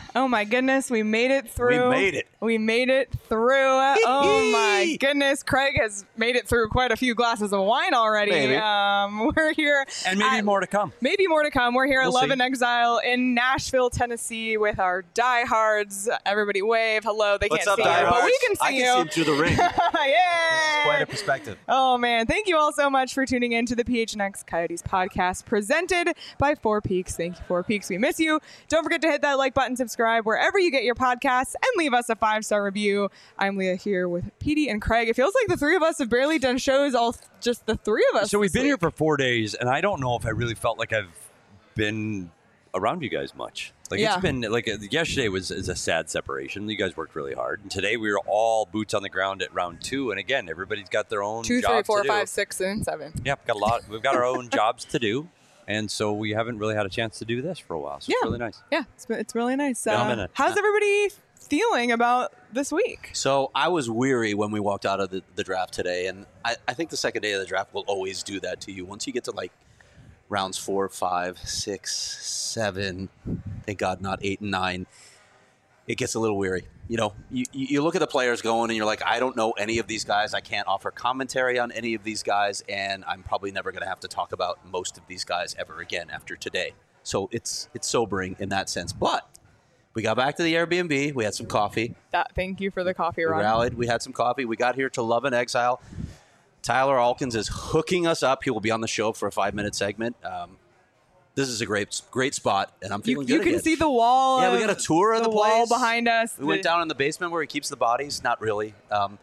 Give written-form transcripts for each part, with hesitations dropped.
Oh my goodness, we made it through. We made it through. Oh my goodness, Craig has made it through quite a few glasses of wine already. Maybe. We're here. And maybe more to come. Maybe more to come. We're here at Love see. in Exile in Nashville, Tennessee with our diehards. Everybody wave. Hello. They What's can't up, see you, but diehards? we can see I you. can see him through the ring. Yeah. Quite a perspective. Oh, man. Thank you all so much for tuning in to the PHNX Coyotes podcast presented by Four Peaks. Thank you, Four Peaks. We miss you. Don't forget to hit that like button, subscribe wherever you get your podcasts, and leave us a 5-star review. I'm Leah here with Petey and Craig. It feels like the three of us have barely done shows, just the three of us. So we've this been week. here for 4 days, and I don't know if I really felt like I've been around you guys much. Like Yeah. it's been like yesterday is a sad separation. You guys worked really hard, and today we were all boots on the ground at round 2. And again, everybody's got their own 2, 3, jobs 4, to 5, do. 6, and 7. Yeah, we've got our own jobs to do, and so we haven't really had a chance to do this for a while. So it's really nice. Yeah, it's really nice. Been a minute. How's everybody feeling about this week? So I was weary when we walked out of the draft today, and I think the second day of the draft will always do that to you. Once you get to like rounds 4, 5, 6, 7, thank God not 8 and 9, it gets a little weary. You know, you look at the players going and you're like, I don't know any of these guys. I can't offer commentary on any of these guys, and I'm probably never going to have to talk about most of these guys ever again after today. So it's sobering in that sense. But we got back to the Airbnb. We had some coffee. Thank you for the coffee We run. rallied. We had some coffee. We got here to Love in Exile. Tyler Alkins is hooking us up. He will be on the show for a 5-minute segment. This is a great spot, and I'm feeling You good can again. see the wall. Yeah, we got a tour of the wall place. behind us. We went down in the basement where he keeps the bodies. Not really.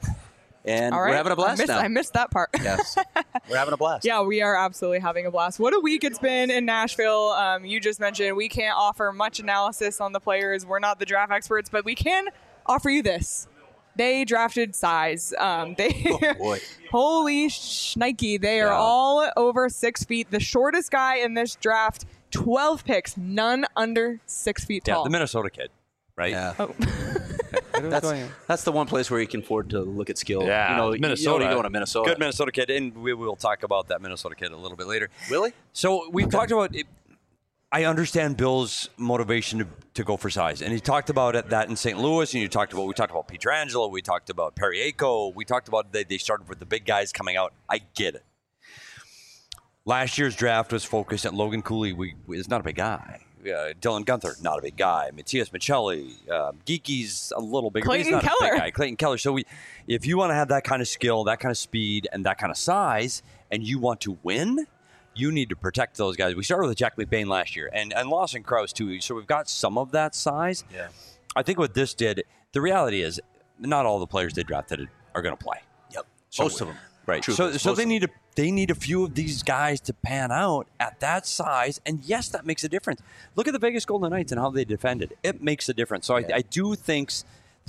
And All right. we're having a blast now. I missed that part. Yes. We're having a blast. Yeah, we are absolutely having a blast. What a week it's been in Nashville. You just mentioned we can't offer much analysis on the players. We're not the draft experts, but we can offer you this. They drafted size. Oh, boy. Holy shnikey. They are Yeah. all over 6 feet. The shortest guy in this draft, 12 picks, none under 6 feet Yeah, tall. the Minnesota kid, right? Yeah. Oh. That's the one place where you can afford to look at skill. Yeah, You know, Minnesota. You go to Minnesota. Good Minnesota kid, and we will talk about that Minnesota kid a little bit later. Really? So we've talked about it. I understand Bill's motivation to go for size, and he talked about it that in St. Louis, and we talked about Pietrangelo, we talked about Periaco, we talked about they started with the big guys coming out. I get it. Last year's draft was focused at Logan Cooley. Is not a big guy. Dylan Gunther, not a big guy. Matthias Michelli, Geeky's a little bigger. but he's Clayton not a Keller. big guy. Clayton Keller. So if you want to have that kind of skill, that kind of speed, and that kind of size, and you want to win, you need to protect those guys. We started with Jack McBain last year, and Lawson Krause too. So we've got some of that size. Yeah. I think what this did, the reality is, not all the players they drafted are going to play. Yep. So- Most of them. Right. True. So Most they of them. need a few of these guys to pan out at that size, and yes, that makes a difference. Look at the Vegas Golden Knights and how they defended. It makes a difference. So I do thinks.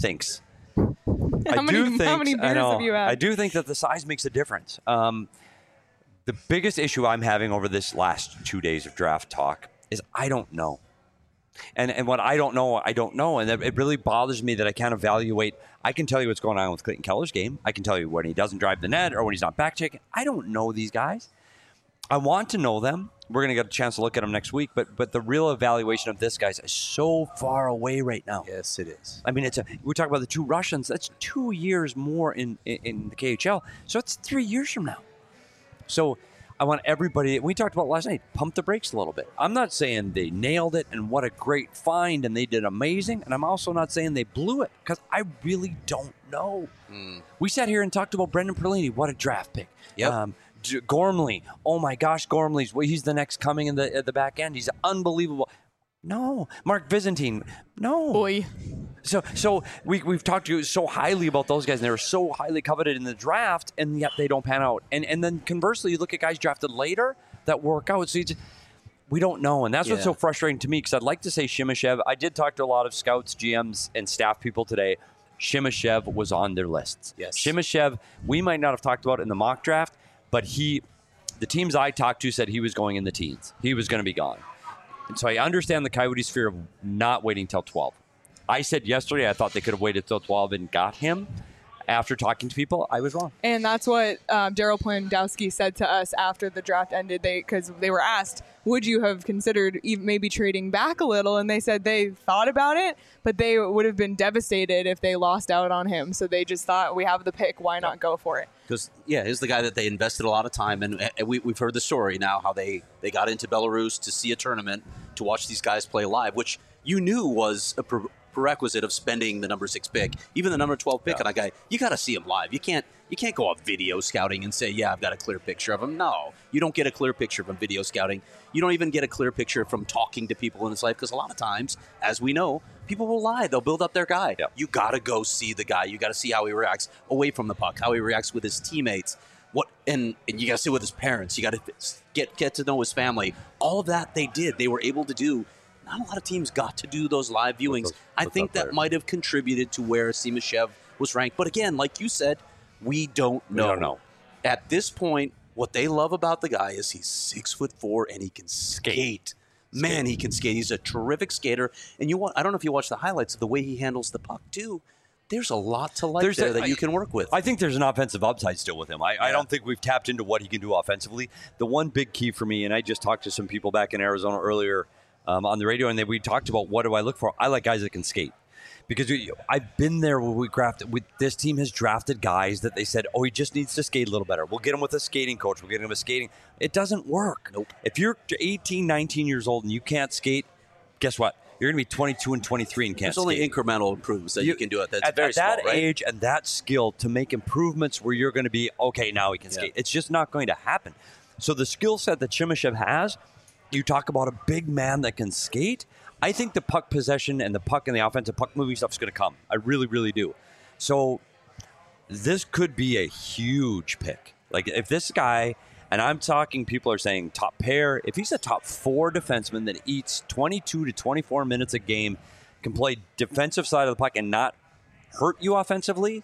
How many beers have you had? I do think that the size makes a difference. The biggest issue I'm having over this last 2 days of draft talk is I don't know. And what I don't know, and it really bothers me that I can't evaluate. I can tell you what's going on with Clayton Keller's game. I can tell you when he doesn't drive the net or when he's not back checking. I don't know these guys. I want to know them. We're going to get a chance to look at them next week, but the real evaluation of this guys is so far away right now. Yes, it is. I mean, we talk about the 2 Russians. That's 2 years more in the KHL. So it's 3 years from now. So I want everybody, we talked about last night, pump the brakes a little bit. I'm not saying they nailed it and what a great find and they did amazing. And I'm also not saying they blew it because I really don't know. We sat here and talked about Brendan Perlini. What a draft pick. Yep. Gormley. Oh my gosh, he's the next coming at the back end. He's unbelievable. No. Mark Byzantine. No. Boy. So we've talked to you so highly about those guys, and they were so highly coveted in the draft, and yet they don't pan out. And then conversely, you look at guys drafted later that work out. So we don't know, and that's what's so frustrating to me because I'd like to say Shimashev. I did talk to a lot of scouts, GMs, and staff people today. Shimashev was on their lists. Yes. Shimashev, we might not have talked about in the mock draft, but the teams I talked to said he was going in the teens. He was going to be gone. And so I understand the Coyotes' fear of not waiting till 12. I said yesterday I thought they could have waited till 12 and got him. after talking to people, I was wrong. And that's what Daryl Plandowski said to us after the draft ended. Because they were asked, would you have considered maybe trading back a little? And they said they thought about it, but they would have been devastated if they lost out on him. So they just thought, we have the pick, why not go for it? Because, he's the guy that they invested a lot of time in. And we've heard the story now, how they got into Belarus to see a tournament, to watch these guys play live, which you knew was a prerequisite of spending the number 6 pick, even the number 12 pick on a guy. You got to see him live. You can't go off video scouting and say, I've got a clear picture of him. No, you don't get a clear picture from video scouting. You don't even get a clear picture from talking to people in his life, because a lot of times, as we know, people will lie. They'll build up their guy. Yep. You got to go see the guy. You got to see how he reacts away from the puck, how he reacts with his teammates. And you got to see with his parents. You got to get to know his family. All of that they did. They were able to do. Not a lot of teams got to do those live viewings. I think that might have contributed to where Simashev was ranked. But again, like you said, we don't know. We don't know. At this point, what they love about the guy is he's 6'4" and he can skate. Man, he can skate. He's a terrific skater. And I don't know if you watch the highlights of the way he handles the puck too. There's a lot to like that you can work with. I think there's an offensive upside still with him. I don't think we've tapped into what he can do offensively. The one big key for me, and I just talked to some people back in Arizona earlier on the radio, and we talked about what do I look for. I like guys that can skate. Because I've been there where this team has drafted guys that they said, he just needs to skate a little better. We'll get him with a skating coach. We'll get him with skating. It doesn't work. Nope. If you're 18, 19 years old and you can't skate, guess what? You're going to be 22 and 23 and can't skate. There's only incremental improvements that you can do. That's very small, at that age and that skill to make improvements where you're going to be, okay, now we can skate. It's just not going to happen. So the skill set that Simashev has, you talk about a big man that can skate. I think the puck possession and the puck and the offensive puck moving stuff is going to come. I really, really do. So this could be a huge pick. Like if this guy, and I'm talking, people are saying top pair, if he's a top 4 defenseman that eats 22 to 24 minutes a game, can play defensive side of the puck and not hurt you offensively,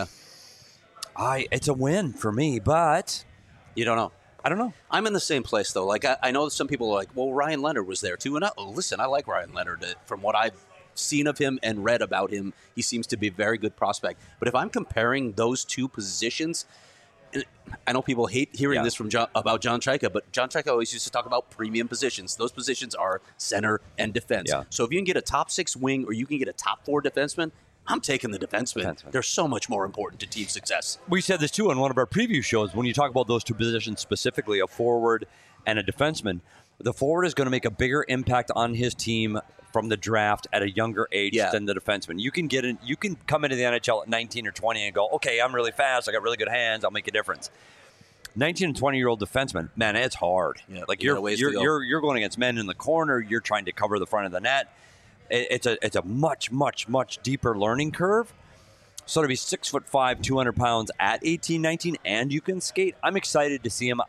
it's a win for me, but you don't know. I don't know. I'm in the same place, though. Like, I know some people are like, well, Ryan Leonard was there, too. And listen, I like Ryan Leonard. From what I've seen of him and read about him, he seems to be a very good prospect. But if I'm comparing those two positions, I know people hate hearing this from about John Chayka, but John Chayka always used to talk about premium positions. Those positions are center and defense. Yeah. So if you can get a top 6 wing or you can get a top 4 defenseman, I'm taking the defenseman. They're so much more important to team success. We said this, too, on one of our preview shows. When you talk about those two positions specifically, a forward and a defenseman, the forward is going to make a bigger impact on his team from the draft at a younger age than the defenseman. You can come into the NHL at 19 or 20 and go, okay, I'm really fast. I got really good hands. I'll make a difference. 19 and 20-year-old defenseman, man, it's hard. Yeah, like you're going against men in the corner. You're trying to cover the front of the net. It's a much, much, much deeper learning curve. So to be 6'5", 200 pounds at 18, 19, and you can skate, I'm excited to see him.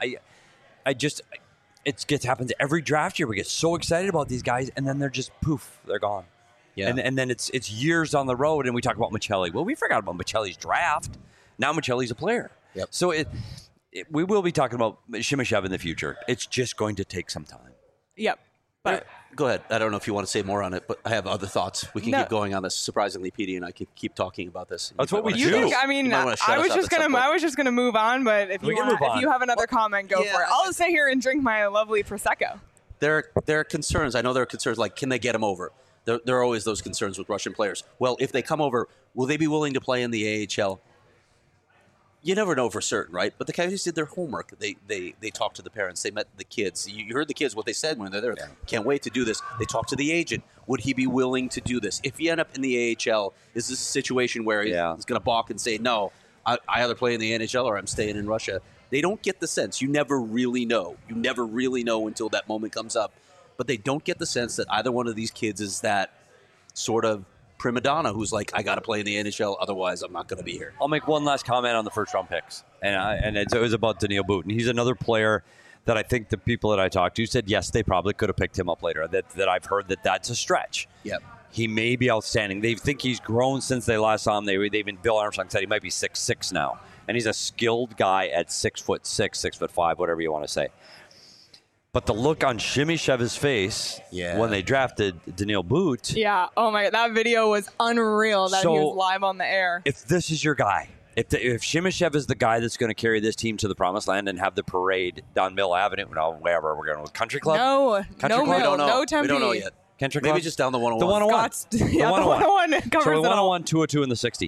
It happens every draft year. We get so excited about these guys, and then they're just poof, they're gone. Yeah. And then it's years on the road, and we talk about Michelli. Well, we forgot about Michelli's draft. Now Michelli's a player. Yep. So we will be talking about Simashev in the future. It's just going to take some time. Yep. But go ahead. I don't know if you want to say more on it, but I have other thoughts. We can keep going on this. Surprisingly, Petey and I can keep talking about this. That's what we do. I was just gonna move on, but if you have another comment, go for it. I'll just sit here and drink my lovely prosecco. There are concerns. I know there are concerns like, can they get him over? There are always those concerns with Russian players. Well, if they come over, will they be willing to play in the AHL? You never know for certain, right? But the Coyotes did their homework. They talked to the parents. They met the kids. You heard the kids, what they said when they're there. Yeah. Can't wait to do this. They talked to the agent. Would he be willing to do this? If you end up in the AHL, is this a situation where he's going to balk and say, no, I either play in the NHL or I'm staying in Russia? They don't get the sense. You never really know. You never really know until that moment comes up. But they don't get the sense that either one of these kids is that sort of prima donna who's like, I got to play in the NHL, otherwise I'm not going to be here. I'll make one last comment on the first-round picks, and it was about Daniil Butin. He's another player that I think the people that I talked to said, yes, they probably could have picked him up later, that I've heard that's a stretch. Yep. He may be outstanding. They think he's grown since they last saw him. Bill Armstrong said he might be 6'6" now, and he's a skilled guy at 6'6", 6'5", whatever you want to say. But the look on Simashev's face when they drafted Daniil But. Yeah. Oh, my God. That video was unreal that he was live on the air. If this is your guy, If Shemishev is the guy that's going to carry this team to the promised land and have the parade down Mill Avenue, wherever we're going with Country Club. No, Country no Club? Mill, We don't know. no Tempe. We don't know yet. Country Maybe Club? just down the 101. The 101. The 101 covers So it all. 101, 202, and the 60.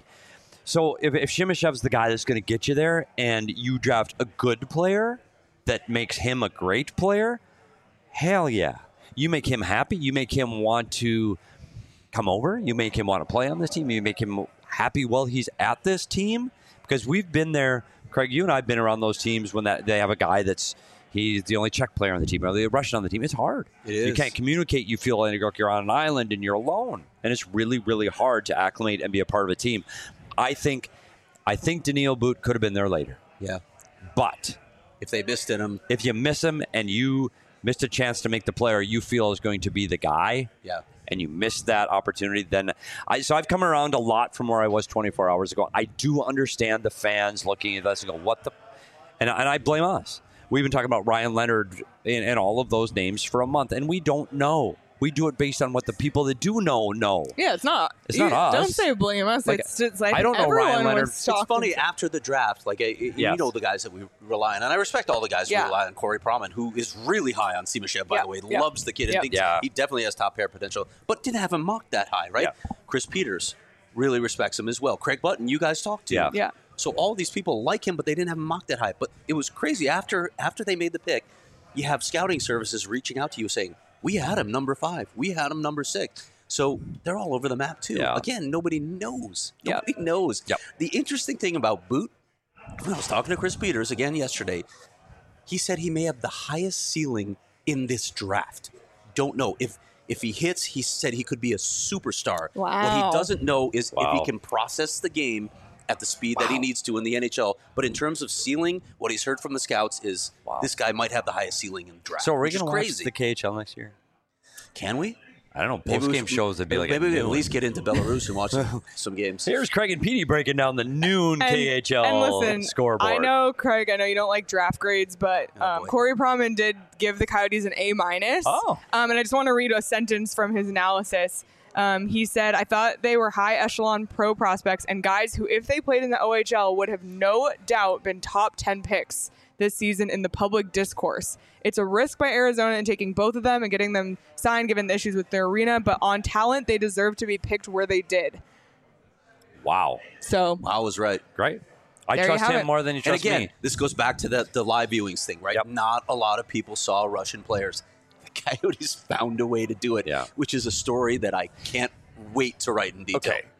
So if Shimishev's the guy that's going to get you there, and you draft a good player that makes him a great player, hell yeah. You make him happy. You make him want to come over. You make him want to play on this team. You make him happy while he's at this team. Because we've been there, Craig, you and I have been around those teams when they have a guy he's the only Czech player on the team or the Russian on the team. It's hard. It is. You can't communicate. You feel like you're on an island and you're alone. And it's really, really hard to acclimate and be a part of a team. I think Daniil But could have been there later. Yeah. But If they missed in him. if you miss him and you missed a chance to make the player you feel is going to be the guy, Yeah. and you missed that opportunity, then I've come around a lot from where I was 24 hours ago. I do understand the fans looking at us and go, what the... And I blame us. We've been talking about Ryan Leonard and all of those names for a month, and we don't know. We do it based on what the people that do know. Yeah, it's not. It's not us. Don't say blame us. Like, It's just like I don't know everyone Ryan Leonard. was It's shocked. It's funny, after the draft, like, you Yes. know the guys that we rely on. And I respect all the guys who Yeah. rely on Corey Proman, who is really high on Simashev, by Yeah. the way. Yeah. Loves the kid and Yeah. thinks Yeah. he definitely has top pair potential, but didn't have him mocked that high, right? Yeah. Chris Peters really respects him as well. Craig Button, you guys talked to. Yeah. Yeah. So all these people like him, but they didn't have him mocked that high. But it was crazy. After they made the pick, you have scouting services reaching out to you saying, we had him number 5. We had him number 6. So they're all over the map, too. Yeah. Again, nobody knows. Yeah. Nobody knows. Yep. The interesting thing about Boot, when I was talking to Chris Peters again yesterday, he said he may have the highest ceiling in this draft. Don't know. If he hits, he said he could be a superstar. What Wow. he doesn't know is if he Wow. can process the game at the speed that he needs to in the NHL. But in terms of ceiling, what he's heard from the scouts is this guy might have the highest ceiling in the draft. So are we which is going to watch crazy. the KHL next year? Can we? I don't know. Maybe we Post-game should- shows would be like maybe we at at noon. least get into Belarus and watch some games. Here's Craig and Petey breaking down the noon KHL and listen, scoreboard. I know, Craig, I know you don't like draft grades, but Oh, boy. Corey Proman did give the Coyotes an A-. Oh. And I just want to read a sentence from his analysis. He said, I thought they were high echelon pro prospects and guys who, if they played in the OHL, would have no doubt been top 10 picks this season in the public discourse. It's a risk by Arizona in taking both of them and getting them signed given the issues with their arena, but on talent, they deserve to be picked where they did. Wow. So, I was right. Great. I There you trust have him it. more than you And trust again, me. this goes back to the live viewings thing, right? Yep. Not a lot of people saw Russian players. The Coyotes found a way to do it, Yeah. which is a story that I can't wait to write in detail. Okay.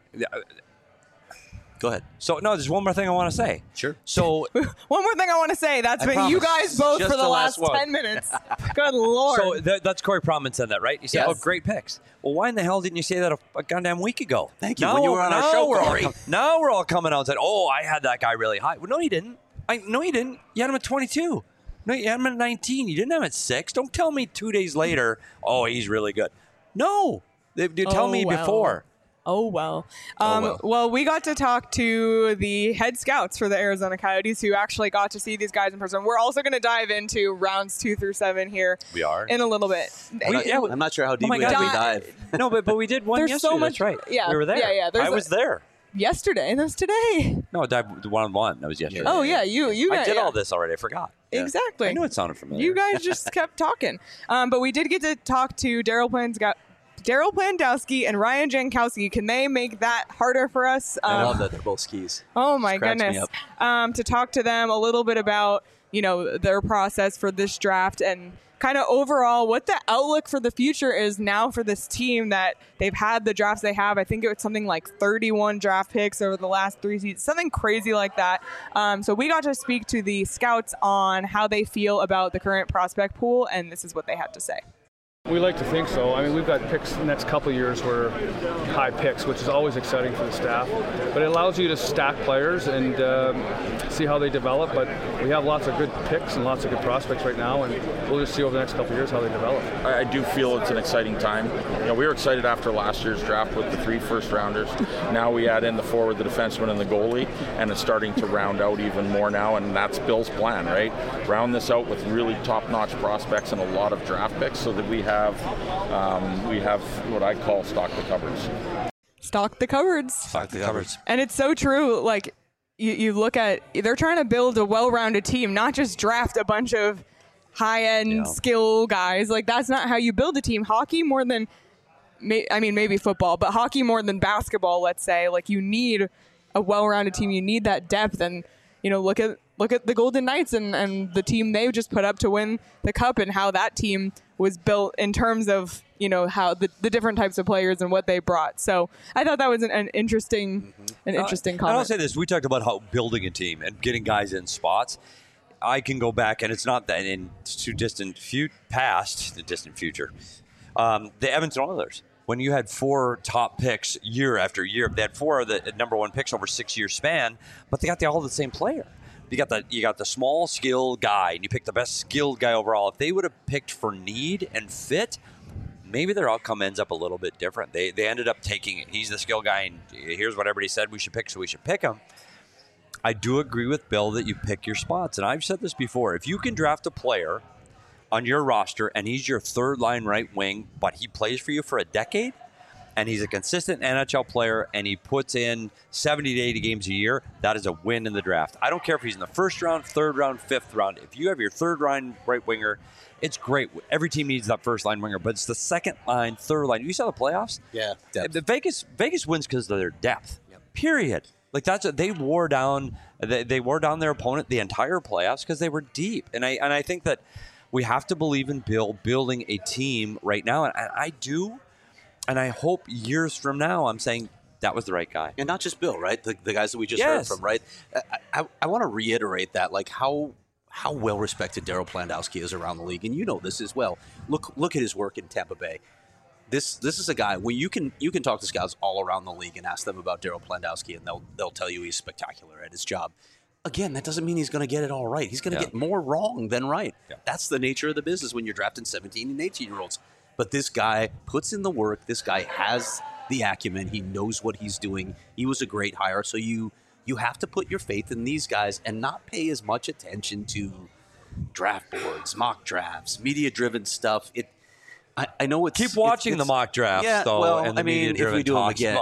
Go ahead. So, no, there's one more thing I want to say. Sure. So, one more thing I want to say. That's I been you promise. guys both Just for the the last last one. 10 minutes. Good Lord. that's Corey Proman said that, right? He said, Yes. oh, great picks. Well, why in the hell didn't you say that a goddamn week ago? Thank you. When you were on our show, Corey. Now we're all coming out and said, oh, I had that guy really high. Well, no, you didn't. No, you didn't. You had him at 22. No, you had him at 19. You didn't have him at 6. Don't tell me 2 days later, oh, he's really good. No. You tell me well. before. Oh, well. well. Well, we got to talk to the head scouts for the Arizona Coyotes who actually got to see these guys in person. We're also going to dive into rounds 2 through 7 here We are? in a little bit. I'm not sure how deep my we God. dive. No, but we did one There's yesterday. so much- That's right. yeah, We were there. yeah, yeah. I was there. Yesterday, and that's today. No, the one-on-one. That was yesterday. Oh, yeah, you I guys. did yeah. all this already. I forgot. Exactly. I knew it sounded familiar. You guys just kept talking. But we did get to talk to Daryl Plandowski and Ryan Jankowski. Can they make that harder for us? I love that they're both skis. Oh my Cracks me goodness. To talk to them a little bit about, their process for this draft and kind of overall what the outlook for the future is now for this team that they've had the drafts they have. I think it was something like 31 draft picks over the last 3 seasons, something crazy like that. So we got to speak to the scouts on how they feel about the current prospect pool, and this is what they had to say. We like to think so. I mean, we've got picks the next couple of years where high picks, which is always exciting for the staff. But it allows you to stack players and see how they develop. But we have lots of good picks and lots of good prospects right now, and we'll just see over the next couple of years how they develop. I do feel it's an exciting time. We were excited after last year's draft with the 3 first-rounders. Now we add in the forward, the defenseman, and the goalie, and it's starting to round out even more now, and that's Bill's plan, right? Round this out with really top-notch prospects and a lot of draft picks so that we have what I call stock the cupboards. Stock the cupboards. Stock the cupboards. And it's so true. Like, you look at, they're trying to build a well-rounded team, not just draft a bunch of high-end skill guys. Like, that's not how you build a team. Hockey more than, maybe football, but hockey more than basketball, let's say. Like, you need a well-rounded team. You need that depth. And, look at the Golden Knights and the team they just put up to win the Cup and how that team was built in terms of, how the different types of players and what they brought. So I thought that was an interesting comment. I'll say this. We talked about how building a team and getting guys in spots. I can go back, and it's not that in too distant past, the distant future. The Edmonton Oilers, when you had 4 top picks year after year, they had 4 of the number 1 picks over a 6-year span, but they got all the same player. You got the small skill guy, and you picked the best skilled guy overall. If they would have picked for need and fit, maybe their outcome ends up a little bit different. They ended up taking it. He's the skill guy, and here's what everybody said we should pick, so we should pick him. I do agree with Bill that you pick your spots, and I've said this before. If you can draft a player on your roster, and he's your third-line right wing, but he plays for you for a decade, and he's a consistent NHL player, and he puts in 70 to 80 games a year, that is a win in the draft. I don't care if he's in the first round, third round, fifth round. If you have your third-line right winger, it's great. Every team needs that first-line winger, but it's the second line, third line. You saw the playoffs? Yeah, depth. Vegas wins because of their depth, period. Like they wore down their opponent the entire playoffs because they were deep. And I think that we have to believe in Bill building a team right now, and I do. And I hope years from now I'm saying that was the right guy. And not just Bill, right? The guys that we just heard from, right? I want to reiterate that, like how well-respected Daryl Plandowski is around the league. And you know this as well. Look at his work in Tampa Bay. This is a guy where you can talk to scouts all around the league and ask them about Daryl Plandowski, and they'll tell you he's spectacular at his job. Again, that doesn't mean he's going to get it all right. He's going to get more wrong than right. Yeah. That's the nature of the business when you're drafting 17 and 18-year-olds. But this guy puts in the work. This guy has the acumen. He knows what he's doing. He was a great hire. So you have to put your faith in these guys and not pay as much attention to draft boards, mock drafts, media-driven stuff. I know it's... Keep watching the mock drafts, though. Well, and the if we do them again,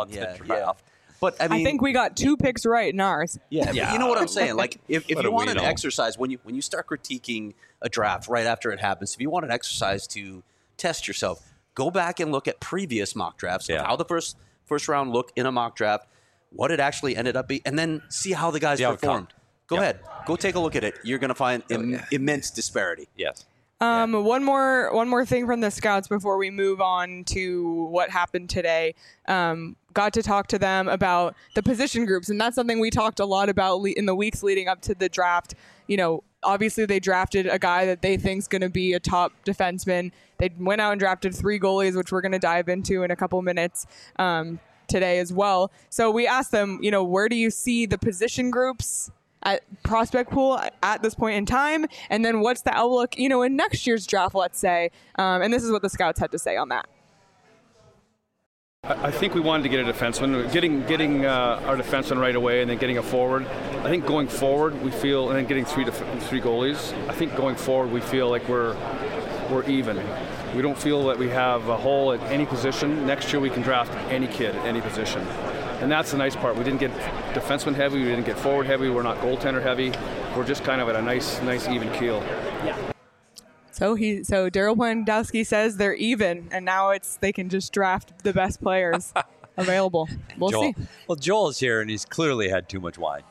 But I think we got 2 picks right in ours. Yeah. You know what I'm saying? Like, if you want an exercise, when you start critiquing a draft right after it happens, if you want an exercise to test yourself, go back and look at previous mock drafts, how the first round looked in a mock draft, what it actually ended up being, and then see how the guys performed. Go ahead. Go take a look at it. You're going to find immense disparity. Yes. One more thing from the scouts before we move on to what happened today. Got to talk to them about the position groups, and that's something we talked a lot about in the weeks leading up to the draft. Obviously they drafted a guy that they think is going to be a top defenseman. They went out and drafted 3 goalies, which we're going to dive into in a couple minutes today as well. So we asked them, where do you see the position groups at prospect pool at this point in time? And then what's the outlook, in next year's draft, let's say. And this is what the scouts had to say on that. I think we wanted to get a defenseman, getting our defenseman right away, and then getting a forward. I think going forward, we feel, and then getting three goalies. I think going forward, we feel like we're even. We don't feel that we have a hole at any position. Next year, we can draft any kid at any position, and that's the nice part. We didn't get defenseman heavy. We didn't get forward heavy. We're not goaltender heavy. We're just kind of at a nice even keel. Yeah. So Daryl Plandowski says they're even, and now they can just draft the best players available. We'll see. Well, Joel's here, and he's clearly had too much wine.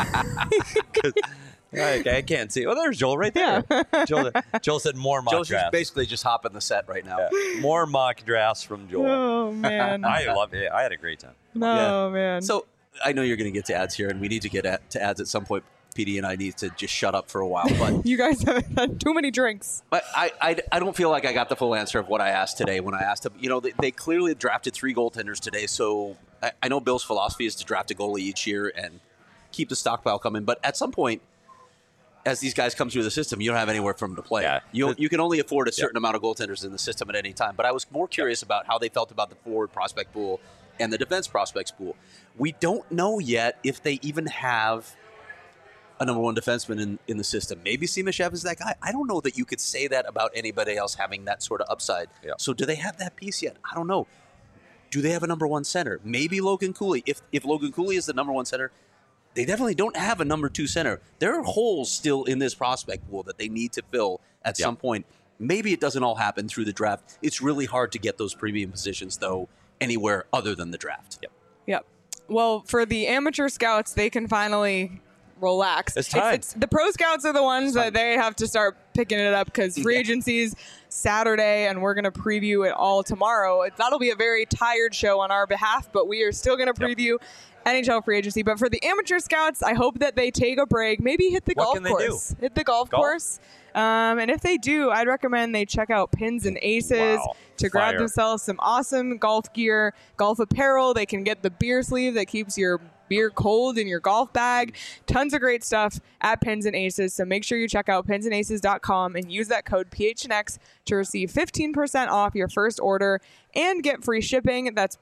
I can't see. Oh, there's Joel right there. Yeah. Joel said more mock drafts. Joel's basically just hopping the set right now. Yeah. More mock drafts from Joel. Oh, man. I love it. I had a great time. No, man. So I know you're going to get to ads here, and we need to get to ads at some point. PD and I need to just shut up for a while. But you guys have had too many drinks. But I don't feel like I got the full answer of what I asked today when I asked them. They clearly drafted 3 goaltenders today. So I know Bill's philosophy is to draft a goalie each year and keep the stockpile coming. But at some point, as these guys come through the system, you don't have anywhere for them to play. Yeah. You can only afford a certain amount of goaltenders in the system at any time. But I was more curious about how they felt about the forward prospect pool and the defense prospects pool. We don't know yet if they even have a number 1 defenseman in the system. Maybe Simashev is that guy. I don't know that you could say that about anybody else having that sort of upside. Yeah. So do they have that piece yet? I don't know. Do they have a number 1 center? Maybe Logan Cooley. If Logan Cooley is the number 1 center, they definitely don't have a number 2 center. There are holes still in this prospect pool that they need to fill at some point. Maybe it doesn't all happen through the draft. It's really hard to get those premium positions, though, anywhere other than the draft. Yep. Well, for the amateur scouts, they can finally relax. It's time. The pro scouts are the ones that they have to start picking it up because free agency's Saturday, and we're going to preview it all tomorrow. That'll be a very tired show on our behalf, but we are still going to preview NHL free agency. But for the amateur scouts, I hope that they take a break, maybe hit the golf course. Hit the golf course. And if they do, I'd recommend they check out Pins and Aces to grab themselves some awesome golf gear, golf apparel. They can get the beer sleeve that keeps your beer cold in your golf bag. Tons of great stuff at Pins and Aces. So make sure you check out pinsandaces.com and use that code PHNX to receive 15% off your first order and get free shipping. That's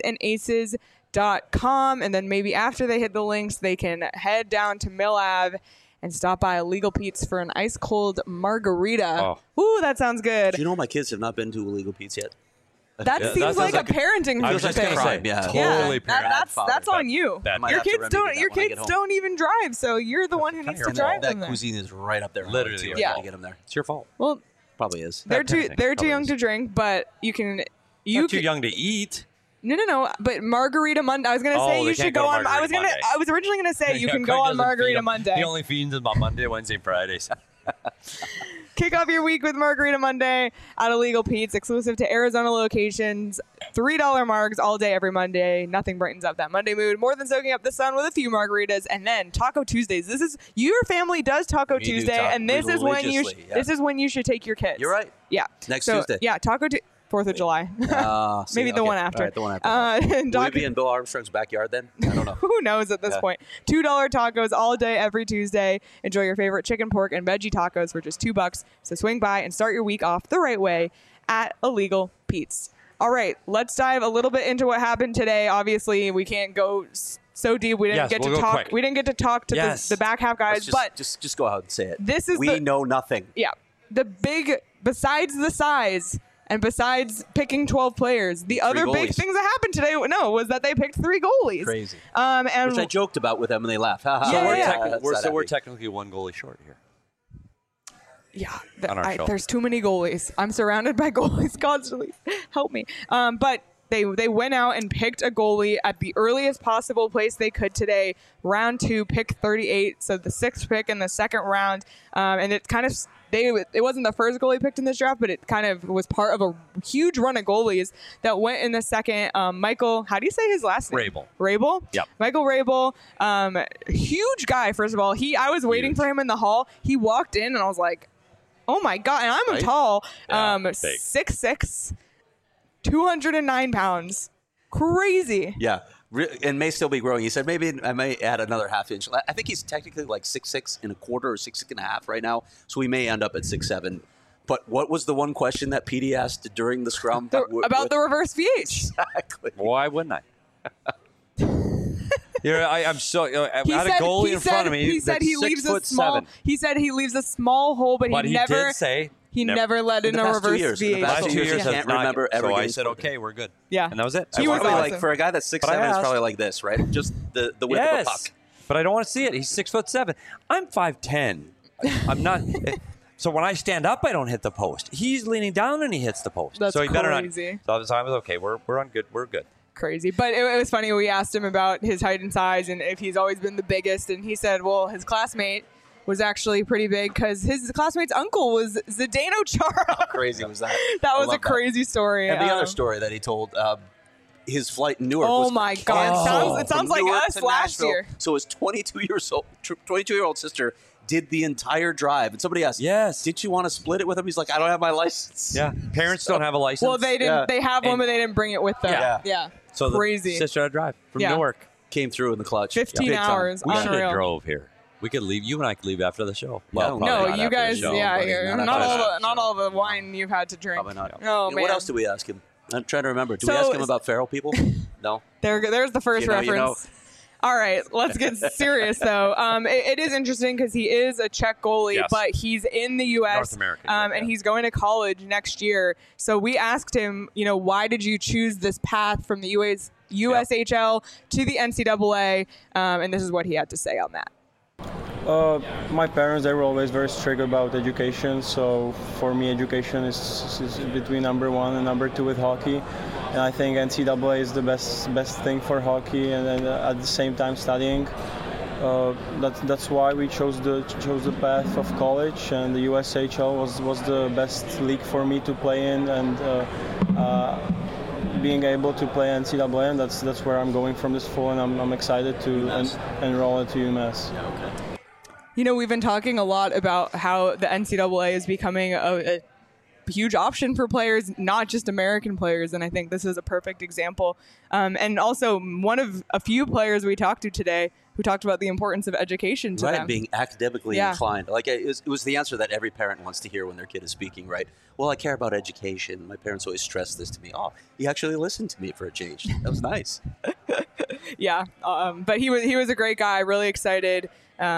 pinsandaces.com. And then maybe after they hit the links, they can head down to Mill Ave and stop by Illegal Pete's for an ice cold margarita. Ooh, that sounds good. Do you know my kids have not been to Illegal Pete's yet? That seems like a parenting I was just thing. going to say, totally parenting. That's on you. Your kids don't even drive, so you're the one who needs to drive them that there. cuisine is right up there. Literally, to get them there. It's your fault. Well, probably is. they're too young to drink, but you can. Not too young to eat. No. But Margarita Monday. I was gonna say you should go on. I was originally gonna say you can go on Margarita Monday. He only feeds them on Monday, Wednesday, Fridays. Kick off your week with Margarita Monday at Illegal Pete's, exclusive to Arizona locations. $3 margs all day, every Monday. Nothing brightens up that Monday mood more than soaking up the sun with a few margaritas. And then Taco Tuesdays. This is your family does Taco Tuesday, and this is when you should take your kids. You're right. Yeah. Next Tuesday. Yeah, Taco Tuesday. 4th of July. Maybe the one after. All right, the one after. Will we be in Bill Armstrong's backyard then? I don't know. Who knows at this point? $2 tacos all day, every Tuesday. Enjoy your favorite chicken, pork, and veggie tacos for just $2. So swing by and start your week off the right way at Illegal Pete's. All right, let's dive a little bit into what happened today. Obviously, we can't go so deep. We didn't get to talk. Quick. We didn't get to talk to the back half guys. But just go out and say it. We know nothing. Yeah, the big besides the size. And besides picking 12 players, the other big things that happened today, was that they picked 3 goalies. Crazy. And which I joked about with them, and they laughed. So we're technically one goalie short here. Yeah, there's too many goalies. I'm surrounded by goalies constantly. Help me. But they went out and picked a goalie at the earliest possible place they could today. Round 2, pick 38, so the 6th pick in the second round. And it kind of... It wasn't the first goalie picked in this draft, but it kind of was part of a huge run of goalies that went in the second. Michael, how do you say his last name? Rabel? Yep. Michael Rabel, huge guy, first of all. I was waiting for him in the hall. He walked in, and I was like, oh, my God. And I'm tall. 6'6", 209 pounds. Crazy. Yeah. And may still be growing. He said maybe I may add another half inch. I think he's technically like 6'6" and a quarter or 6'6.5" right now, so we may end up at 6'7". But what was the one question that Petey asked during the scrum about the reverse VH? Exactly. Why wouldn't I? I'm so. I had a goalie in front of me. He said he leaves a small. He said he leaves a small hole, but he never. Did say. He never let in a reverse VH. The past 2 years, I can't remember ever. So I said, okay, we're good. Yeah. And that was it. He was awesome. Like, for a guy that's 6'7", it's probably like this, right? Just the width of a puck. But I don't want to see it. He's 6'7". I'm 5'10". I'm not. So when I stand up, I don't hit the post. He's leaning down and he hits the post. That's so he better not. crazy. So I was okay. We're on good. We're good. Crazy. But it was funny. We asked him about his height and size and if he's always been the biggest. And he said, well, his classmate was actually pretty big because his classmate's uncle was Zdeno Chara. How crazy was that? That was a crazy story. And the other story that he told, his flight in Newark was... Oh, my God. It sounds like us last year. So his 22-year-old sister did the entire drive. And somebody asked, did you want to split it with him? He's like, I don't have my license. Yeah. Parents don't have a license. Well, they didn't. They have one, but they didn't bring it with them. Yeah. So crazy. The sister had to drive from Newark. Came through in the clutch. 15 hours. We should Unreal. have drove here. We could leave. You and I could leave after the show. Well, no, you guys, not all the wine you've had to drink. Probably not. Oh, man. What else did we ask him? I'm trying to remember. Did we ask him about feral people? No. There's the first reference. All right, let's get serious, though. It is interesting because he is a Czech goalie, but he's in the U.S. North American, and he's going to college next year. So we asked him, why did you choose this path from the USHL to the NCAA, and this is what he had to say on that. My parents, they were always very strict about education, so for me education is between number one and number two with hockey, and I think NCAA is the best thing for hockey, and then at the same time studying. That's why we chose the path of college, and the USHL was the best league for me to play in, and being able to play NCAA, and that's where I'm going from this fall, and I'm excited to enroll into UMass. Yeah, okay. You know, we've been talking a lot about how the NCAA is becoming a huge option for players, not just American players, and I think this is a perfect example. And also, one of a few players we talked to today who talked about the importance of education to them. Being academically inclined. Like it was the answer that every parent wants to hear when their kid is speaking, right? Well, I care about education. My parents always stress this to me. Oh, he actually listened to me for a change. That was nice. Yeah, but he was a great guy. Really excited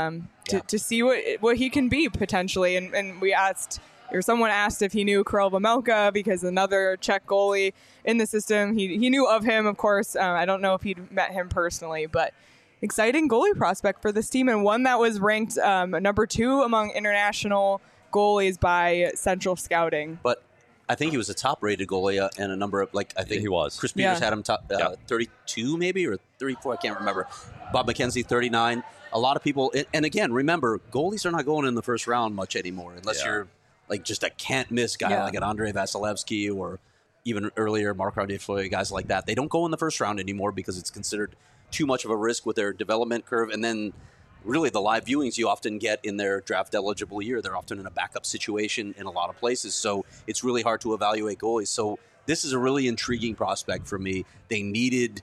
to see what he can be potentially. And we asked, or someone asked if he knew Karel Vejmelka, because another Czech goalie in the system. He knew of him, of course. I don't know if he'd met him personally, but exciting goalie prospect for this team, and one that was ranked number 2 among international goalies by Central Scouting. But I think he was a top-rated goalie, and a number of, I think he was. Chris Peters had him top 32 maybe, or 34, I can't remember. Bob McKenzie, 39. A lot of people, and again, remember, goalies are not going in the first round much anymore, unless you're just a can't-miss guy like an Andrei Vasilevsky, or even earlier, Marc-Andre Fleury, guys like that. They don't go in the first round anymore because it's considered too much of a risk with their development curve, and then really the live viewings you often get in their draft eligible year. They're often in a backup situation in a lot of places, so it's really hard to evaluate goalies. So this is a really intriguing prospect for me. They needed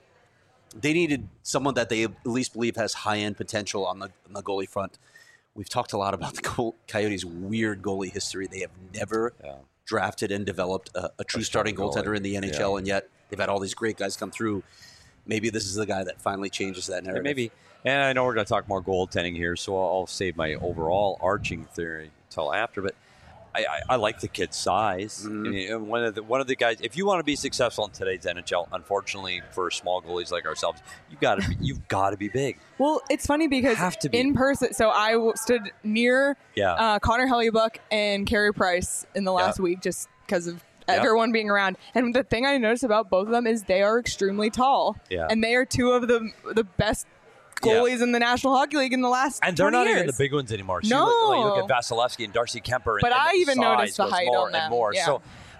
someone that they at least believe has high-end potential on the goalie front. We've talked a lot about the Coyotes' weird goalie history. They have never drafted and developed a true starting goaltender in the NHL, and yet they've had all these great guys come through. Maybe this is the guy that finally changes that narrative. Maybe. And I know we're going to talk more goaltending here, so I'll save my overall arching theory until after. But I like the kid's size. Mm-hmm. I mean, one of the guys. If you want to be successful in today's NHL, unfortunately for small goalies like ourselves, you've got to be big. Well, it's funny because in person. So I stood near Connor Hellebuyck and Carey Price in the last week, just because of everyone being around. And the thing I noticed about both of them is they are extremely tall. Yeah. And they are two of the best goalies in the National Hockey League in the last 20 years. And they're not even the big ones anymore. No. You look at Vasilevsky and Darcy Kemper. But I even noticed the height on them. And more. Yeah. So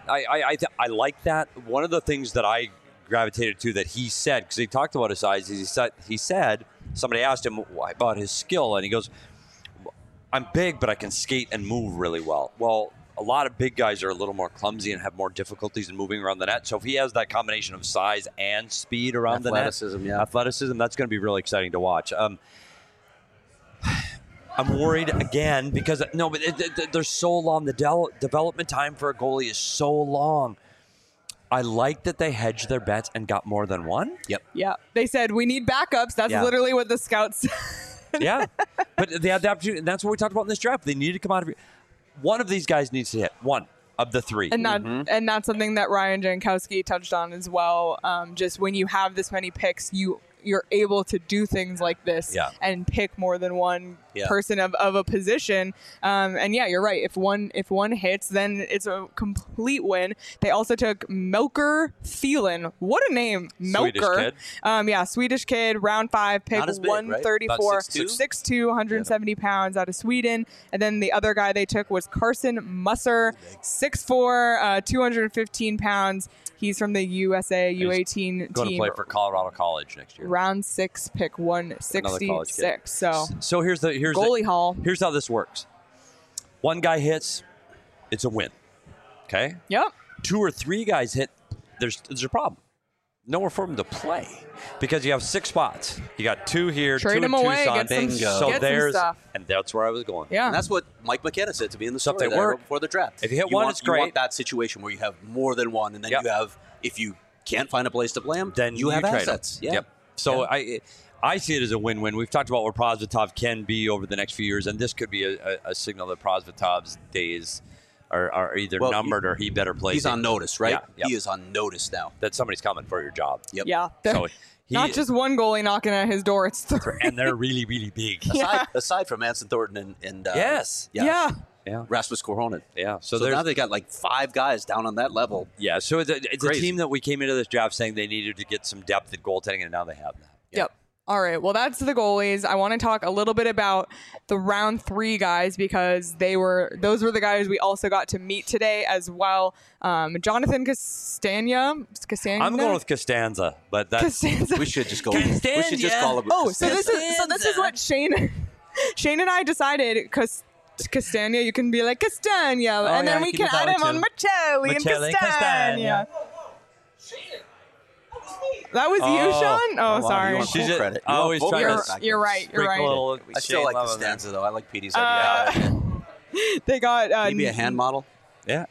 I like that. One of the things that I gravitated to that he said, because he talked about his size, he said, somebody asked him about his skill, and he goes, I'm big, but I can skate and move really well. Well, a lot of big guys are a little more clumsy and have more difficulties in moving around the net. So if he has that combination of size and speed around the net, athleticism, that's going to be really exciting to watch. I'm worried again because they're so long. The development time for a goalie is so long. I like that they hedged their bets and got more than one. Yep. Yeah. They said we need backups. That's literally what the scouts said. Yeah. But they had the opportunity, and that's what we talked about in this draft. They needed to come out of it. One of these guys needs to hit. One of the three. And and that's something that Ryan Jankowski touched on as well. Just when you have this many picks, you're able to do things like this and pick more than one person of a position. And you're right. If one hits, then it's a complete win. They also took Melker Thielen. What a name, Melker. Swedish kid. Swedish kid, round 5, pick 134, right? 6'2", 170 pounds out of Sweden. And then the other guy they took was Carson Musser, 6'4", 215 pounds. He's from the USA U18 team. Going to play for Colorado College next year. Round 6, pick 166. So here's goalie haul. Here's how this works. One guy hits, it's a win. Okay? Yep. 2 or 3 guys hit, there's a problem. Nowhere for him to play because you have 6 spots. You got 2 here, trade 2 him in away, Tucson. get some stuff. And that's where I was going. Yeah. And that's what Mike McKenna said to me in the story Something work before the draft. If you hit one, it's great. You want that situation where you have more than one, and then you have, if you can't find a place to play him, then you have trade assets. Him. Yep. So I see it as a win-win. We've talked about where Prosvetov can be over the next few years, and this could be a signal that Prosvetov's days are either Well, numbered or he better play. He's on notice, right? Yeah. He is on notice now. That somebody's coming for your job. Yep. Yeah. So Not just one goalie knocking at his door. It's three. and they're really, really big. Aside from Anson Thornton and Yes. Yeah. Yeah. Rasmus Korhonen. Yeah. So there's now they got like 5 guys down on that level. Yeah. So it's a Crazy. team that we came into this draft saying they needed to get some depth at goaltending, and now they have that. Yep. All right. Well, that's the goalies. I want to talk a little bit about the round 3 guys because those were the guys we also got to meet today as well. Jonathan Castagna. I'm going with Costanza, but that's Costanza. We should just go. We should just call him. Oh, so this is what Shane and I decided because Castagna, you can be like Castagna, and then yeah, we you can can do add that him too. on Michelli and Michelli, Castagna. That was you, Sean? Oh, wow, sorry. you want full She's credit. I You want always full try credit to back You're there. right. You're right. Sprinkle I still like the love in there. stanza though. I like Petey's idea. They got Maybe a hand model. Yeah.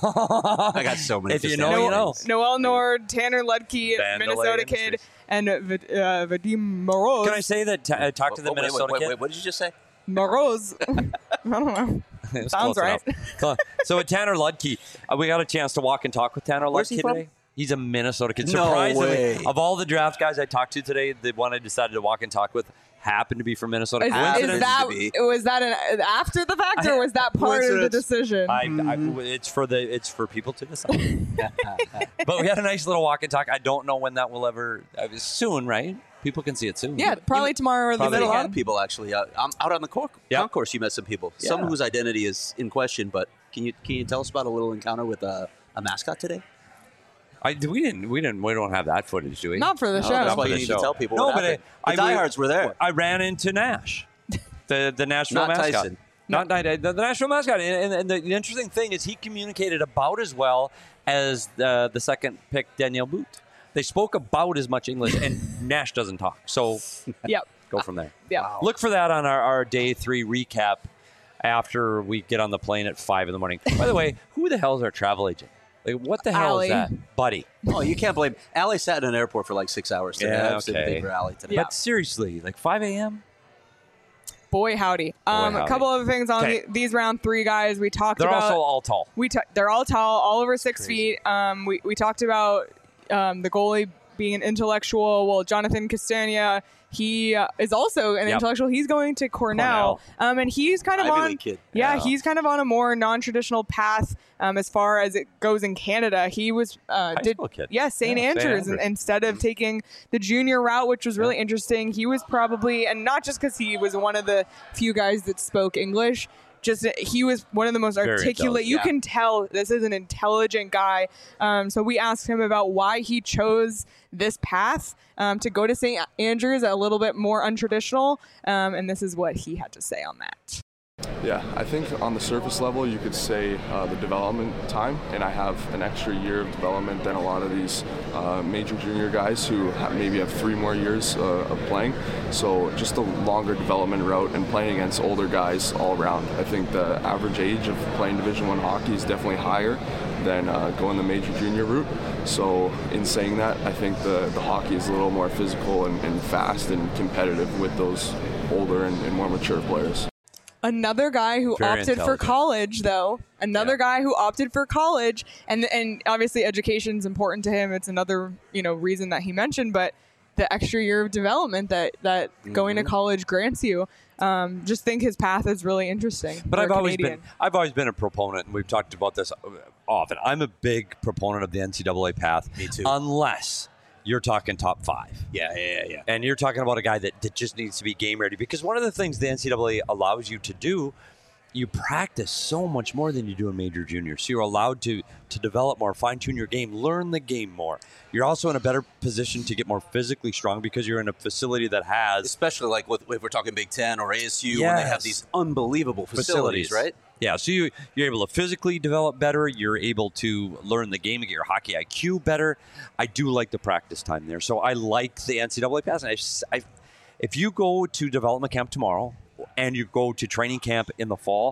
I got so many. If you Costanza know, you know. things. Noel Nord, Tanner Ludke, Vandalay Minnesota Industries. kid, and Vadim Moroz. Can I say that I talked to the Minnesota kid? Wait, what did you just say? Moroz. I don't know. It was Sounds close right. enough. So with Tanner Ludke, we got a chance to walk and talk with Tanner Where's Ludke he from? today. He's a Minnesota kid. No Surprisingly, way. of all the draft guys I talked to today, the one I decided to walk and talk with happened to be from Minnesota. Is Coincidence? that to be. was that an after the fact or was that part of the Coincidence. decision? It's for people to decide. But we had a nice little walk and talk. I don't know when that will ever. Soon, right? People can see it soon. Yeah, probably tomorrow or the You met a lot of weekend. people actually. Out on the concourse, you met some people. Some Yeah. whose identity is in question. But can you tell us about a little encounter with a mascot today? We don't have that footage, do we? Not for the show. That's not why for you the need show. to tell people. No, what but happened. the diehards were there. I ran into Nash, the Nashville Not mascot. Tyson. Not the Nashville mascot. And the interesting thing is he communicated about as well as the second pick, Danielle Boot. They spoke about as much English, and Nash doesn't talk. So Yep. go from there. Yeah. Look for that on our day 3 recap after we get on the plane at 5 in the morning. By the way, who the hell is our travel agent? Like, what the hell Allie. is that? Buddy. Oh, you can't blame. Allie sat in an airport for like 6 hours today. Yeah, I have sympathy okay. for Allie today. Yeah. But seriously, like 5 a.m.? Boy, howdy. A howdy. couple other things on Okay. these round 3 guys we talked They're about. also all tall. They're all tall, all over 6 feet. We talked about the goalie being an intellectual. Well, Jonathan Castagna, he is also an Yep. intellectual. He's going to Cornell. And he's kind of Ivy on. League kid. Yeah, Yeah. he's kind of on a more non-traditional path as far as it goes in Canada. He was school kid. Yeah, St. Yeah, St. Andrews, Andrews. instead of taking the junior route, which was really interesting. He was probably, and not just because he was one of the few guys that spoke English. Just he was one of the most Very articulate. You intelligent. can tell this is an intelligent guy. So we asked him about why he chose this path to go to St. Andrews, a little bit more untraditional. And this is what he had to say on that. Yeah, I think on the surface level, you could say the development time, and I have an extra year of development than a lot of these major junior guys who maybe have 3 more years of playing. So just a longer development route and playing against older guys all around. I think the average age of playing Division I hockey is definitely higher than going the major junior route. So in saying that, I think the hockey is a little more physical and fast and competitive with those older and more mature players. Another guy who Very opted for intelligent. college, though. Another Yeah. guy who opted for college, and obviously education's important to him. It's another reason that he mentioned, but the extra year of development that going to college grants you. Just think his path is really interesting. But for I've a always Canadian. been a proponent, and we've talked about this often. I'm a big proponent of the NCAA path. Me too. Unless you're talking top 5. Yeah. And you're talking about a guy that just needs to be game ready. Because one of the things the NCAA allows you to do, you practice so much more than you do in major junior. So you're allowed to develop more, fine-tune your game, learn the game more. You're also in a better position to get more physically strong because you're in a facility that has Especially like if we're talking Big Ten or ASU, when they have Yes. these unbelievable facilities, right? Yeah, so you're able to physically develop better. You're able to learn the game and get your hockey IQ better. I do like the practice time there. So I like the NCAA pass. And if you go to development camp tomorrow and you go to training camp in the fall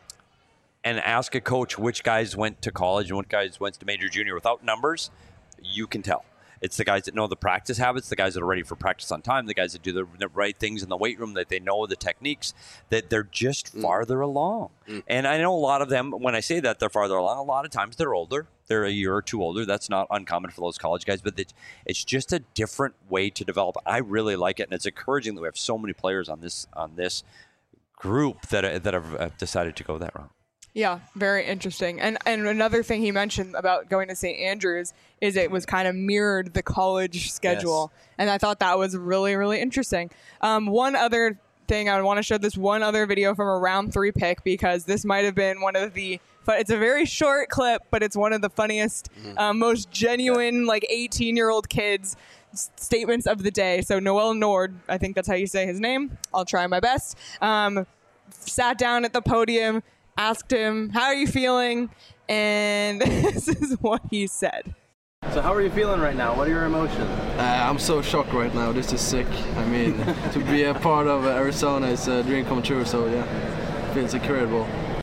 and ask a coach which guys went to college and which guys went to major junior without numbers, you can tell. It's the guys that know the practice habits, the guys that are ready for practice on time, the guys that do the right things in the weight room, that they know the techniques, that they're just farther along. And I know a lot of them, when I say that they're farther along, a lot of times they're older. They're a year or two older. That's not uncommon for those college guys, but it's just a different way to develop. I really like it, and it's encouraging that we have so many players on this group that have decided to go that route. Yeah, very interesting. And another thing he mentioned about going to St. Andrews is it was kind of mirrored the college schedule. Yes. And I thought that was really, really interesting. One other thing, I want to show this one other video from a round 3 pick, because this might have been one of the it's a very short clip, but it's one of the funniest, most genuine, 18-year-old kids statements of the day. So Noel Nord, I think that's how you say his name. I'll try my best. Sat down at the podium, asked him, "How are you feeling?" And this is what he said. So how are you feeling right now? What are your emotions? I'm so shocked right now. This is sick. I mean, to be a part of Arizona is a dream come true. So yeah, it feels incredible.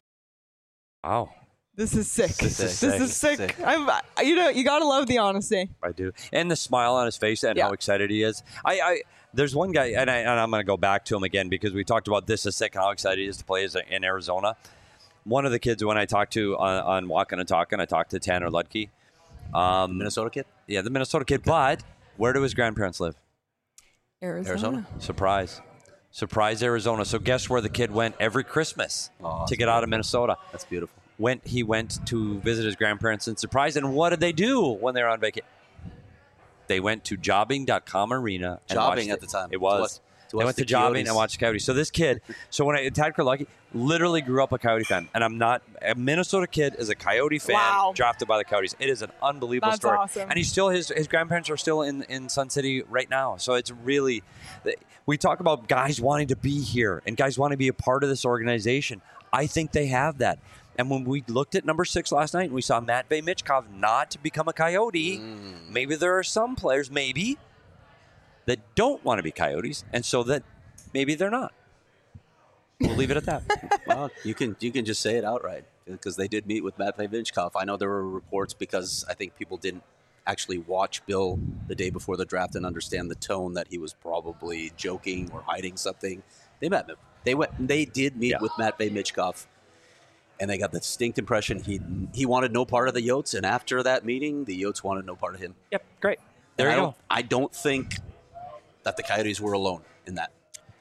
Wow. This is sick. This is sick. You gotta love the honesty. I do, and the smile on his face and how excited he is. There's one guy, and I'm going to go back to him again because we talked about this is sick and how excited he is to play in Arizona. One of the kids when I talked to on Walking and Talking, I talked to Tanner Ludke. Minnesota kid? Yeah, the Minnesota kid. But where do his grandparents live? Arizona. Surprise, Arizona. So guess where the kid went every Christmas to get out of Minnesota? That's beautiful. He went to visit his grandparents in Surprise. And what did they do when they were on vacation? They went to jobbing.com arena. Jobbing at the time. It was. They went to jobbing and watched the Coyotes. So this kid, Tad Kurlucky literally grew up a Coyote fan. And I'm not, a Minnesota kid is a Coyote fan drafted by the Coyotes. It is an unbelievable story. Awesome. And he's still, his grandparents are still in Sun City right now. So it's really, we talk about guys wanting to be here and guys wanting to be a part of this organization. I think they have that. And when we looked at number 6 last night and we saw Matvei Michkov not become a Coyote, maybe there are some players, that don't want to be Coyotes, and so that maybe they're not. We'll leave it at that. Well, you can just say it outright, because they did meet with Matvei Michkov. I know there were reports because I think people didn't actually watch Bill the day before the draft and understand the tone that he was probably joking or hiding something. They met him. They did meet with Matvei Michkov. And they got the distinct impression he wanted no part of the Yotes, and after that meeting, the Yotes wanted no part of him. Yep, great. There you go. I don't think that the Coyotes were alone in that.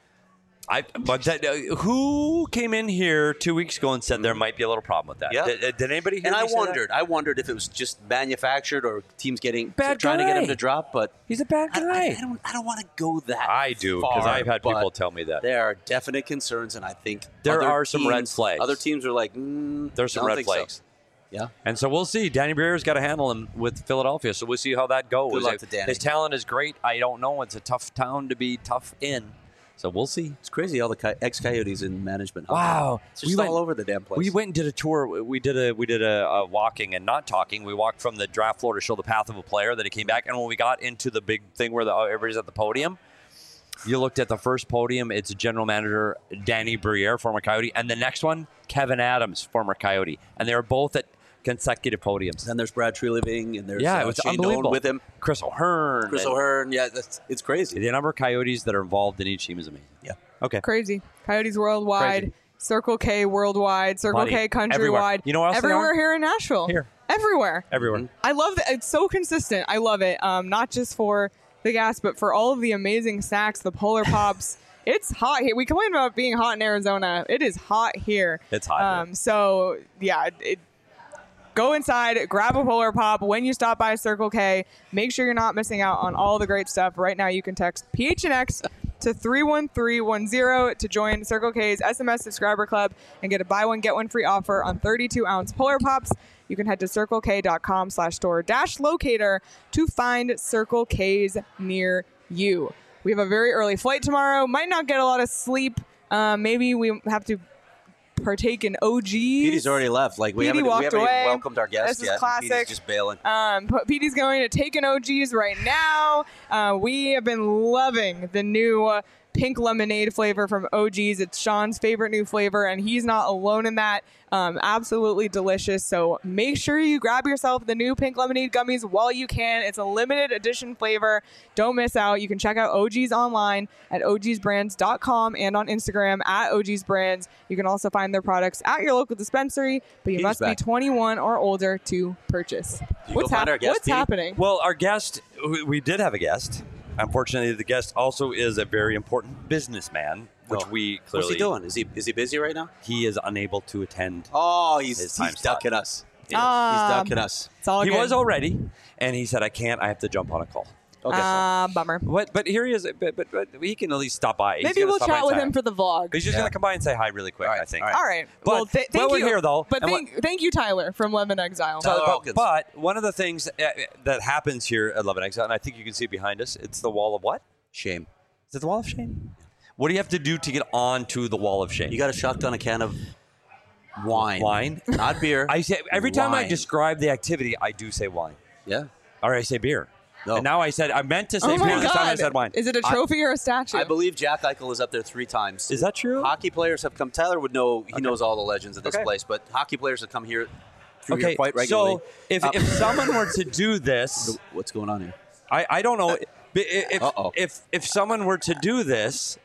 Who came in here 2 weeks ago and said there might be a little problem with that? Yeah. Did anybody hear? And I wondered if it was just manufactured or teams trying to get him to drop. But he's a bad guy. I don't want to go that. I do, because I've had people tell me that there are definite concerns, and I think there are some red flags. Other teams are like, there's some red flags. So. Yeah. And so we'll see. Danny Briere's got to handle him with Philadelphia, so we'll see how that goes. Good luck to Danny. His talent is great. I don't know. It's a tough town to be tough in. So we'll see. It's crazy, all the ex-Coyotes in management. Wow. It's just all over the damn place. We went and did a tour. We did a walking and not talking. We walked from the draft floor to show the path of a player that he came back. And when we got into the big thing where everybody's at the podium, you looked at the first podium. It's general manager Danny Briere, former Coyote. And the next one, Kevin Adams, former Coyote. And they were both at consecutive podiums. And there's Brad Treliving, and there's it was Shane unbelievable. Doan with him. Chris O'Hearn. It's crazy. The number of Coyotes that are involved in each team is amazing. Yeah. Okay. Crazy. Coyotes worldwide. Crazy. Circle K worldwide. Circle K countrywide. Everywhere. You know what else everywhere here in Nashville. Here. Everywhere. Mm-hmm. I love that. It's so consistent. I love it. Not just for the gas, but for all of the amazing snacks, the Polar Pops. It's hot here. We complain about being hot in Arizona. It is hot here. It's hot here. So, yeah, go inside, grab a Polar Pop when you stop by Circle K. Make sure you're not missing out on all the great stuff. Right now, you can text PHNX to 31310 to join Circle K's SMS subscriber club and get a buy one, get one free offer on 32-ounce Polar Pops. You can head to circlek.com/store-locator to find Circle K's near you. We have a very early flight tomorrow. Might not get a lot of sleep. Maybe we have to partake in OGs. Petey's already left. We haven't even welcomed our guests yet. This is classic. Petey's just bailing. Petey's going to take an OGs right now. We have been loving the new pink lemonade flavor from OG's. It's Sean's favorite new flavor, and he's not alone in that. Absolutely delicious. So make sure you grab yourself the new pink lemonade gummies while you can. It's a limited edition flavor. Don't miss out. You can check out OG's online at ogsbrands.com and on Instagram at ogsbrands. You can also find their products at your local dispensary, but you must be 21 or older to purchase. What's happening? Well, our guest, we did have a guest. Unfortunately, the guest also is a very important businessman, which we clearly... What's he doing? Is he busy right now? He is unable to attend. Oh, he's ducking us. He's ducking us. It's all he good. was already, and he said, I can't. I have to jump on a call. Okay. Bummer. But here he is. But he can at least stop by. Maybe we'll chat with him for the vlog. He's just going to come by and say hi really quick, I think. All right. But well, thank you. we're here, though. But thank you, Tyler, from Love and Exile. But one of the things that happens here at Love and Exile, and I think you can see it behind us, it's the wall of what? Shame. Is it the wall of shame? What do you have to do to get onto the wall of shame? You got to shotgun a can of wine. Wine? Not beer. I say every time I Wine. describe the activity, I do say wine. Yeah. Or I say beer. No. And now I meant to say Oh beer. my This time I God. said wine. Is it a trophy or a statue? I believe Jack Eichel is up there 3 times. Is that true? Hockey players have come. Tyler would know. He knows all the legends of this place. But hockey players have come here through here quite regularly. So if someone were to do this, what's going on here? I don't know. If someone were to do this,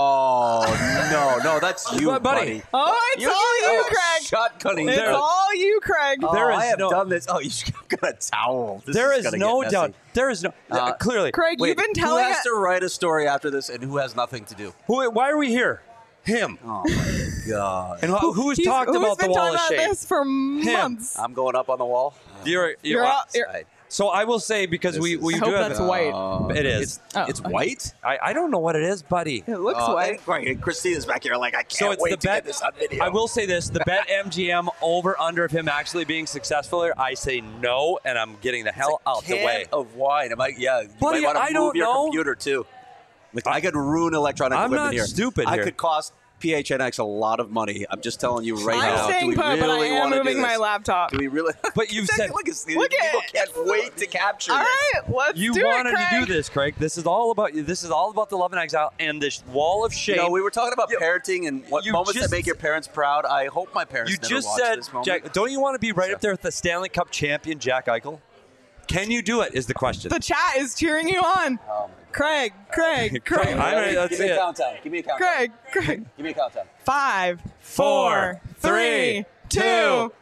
oh no, that's you, buddy. Oh, it's all you, Craig. Shotgunning. It's all you, Craig. I have done this. Oh, you got a towel. There is no doubt. There is no clearly. Craig, you've been telling who has us to write a story after this, and who has nothing to do? Why are we here? Him. Oh my God. And who's talked about the wall of shame? Who's been talking about this for months? I'm going up on the wall. You're so I will say, because we I do hope have that's white. It is. It's white. I don't know what it is, buddy. It looks white. And Christina's back here like, I can't So it's wait the to bet. get this on video. I will say this: the bet MGM over under of him actually being successful here. I say no, and I'm getting the hell out the way. Of wine. You Buddy, might want I to don't move your know. computer too. Like, I could ruin electronic I'm equipment not here. stupid I here. could cost PHNX a lot of money. I'm just telling you right now. I'm staying do we put, really but I am want to do moving my this? laptop. Do we really? But you've said look at Look people at- can't wait to capture All this. right, let's You do wanted it, Craig. to do this, Craig. This is all about you. This is all about the Love and Exile and this wall of shame. You know, we were talking about parenting and what you moments just- that make your parents proud. I hope my parents You never just watch said, this moment. Jack, don't you want to be right up there with the Stanley Cup champion, Jack Eichel? Can you do it? Is the question. The chat is cheering you on. Oh, Craig. I'm ready. Let's Give see me a it. countdown. Give me a countdown. Craig. Give me a countdown. 5, 4, 3, 2, 1.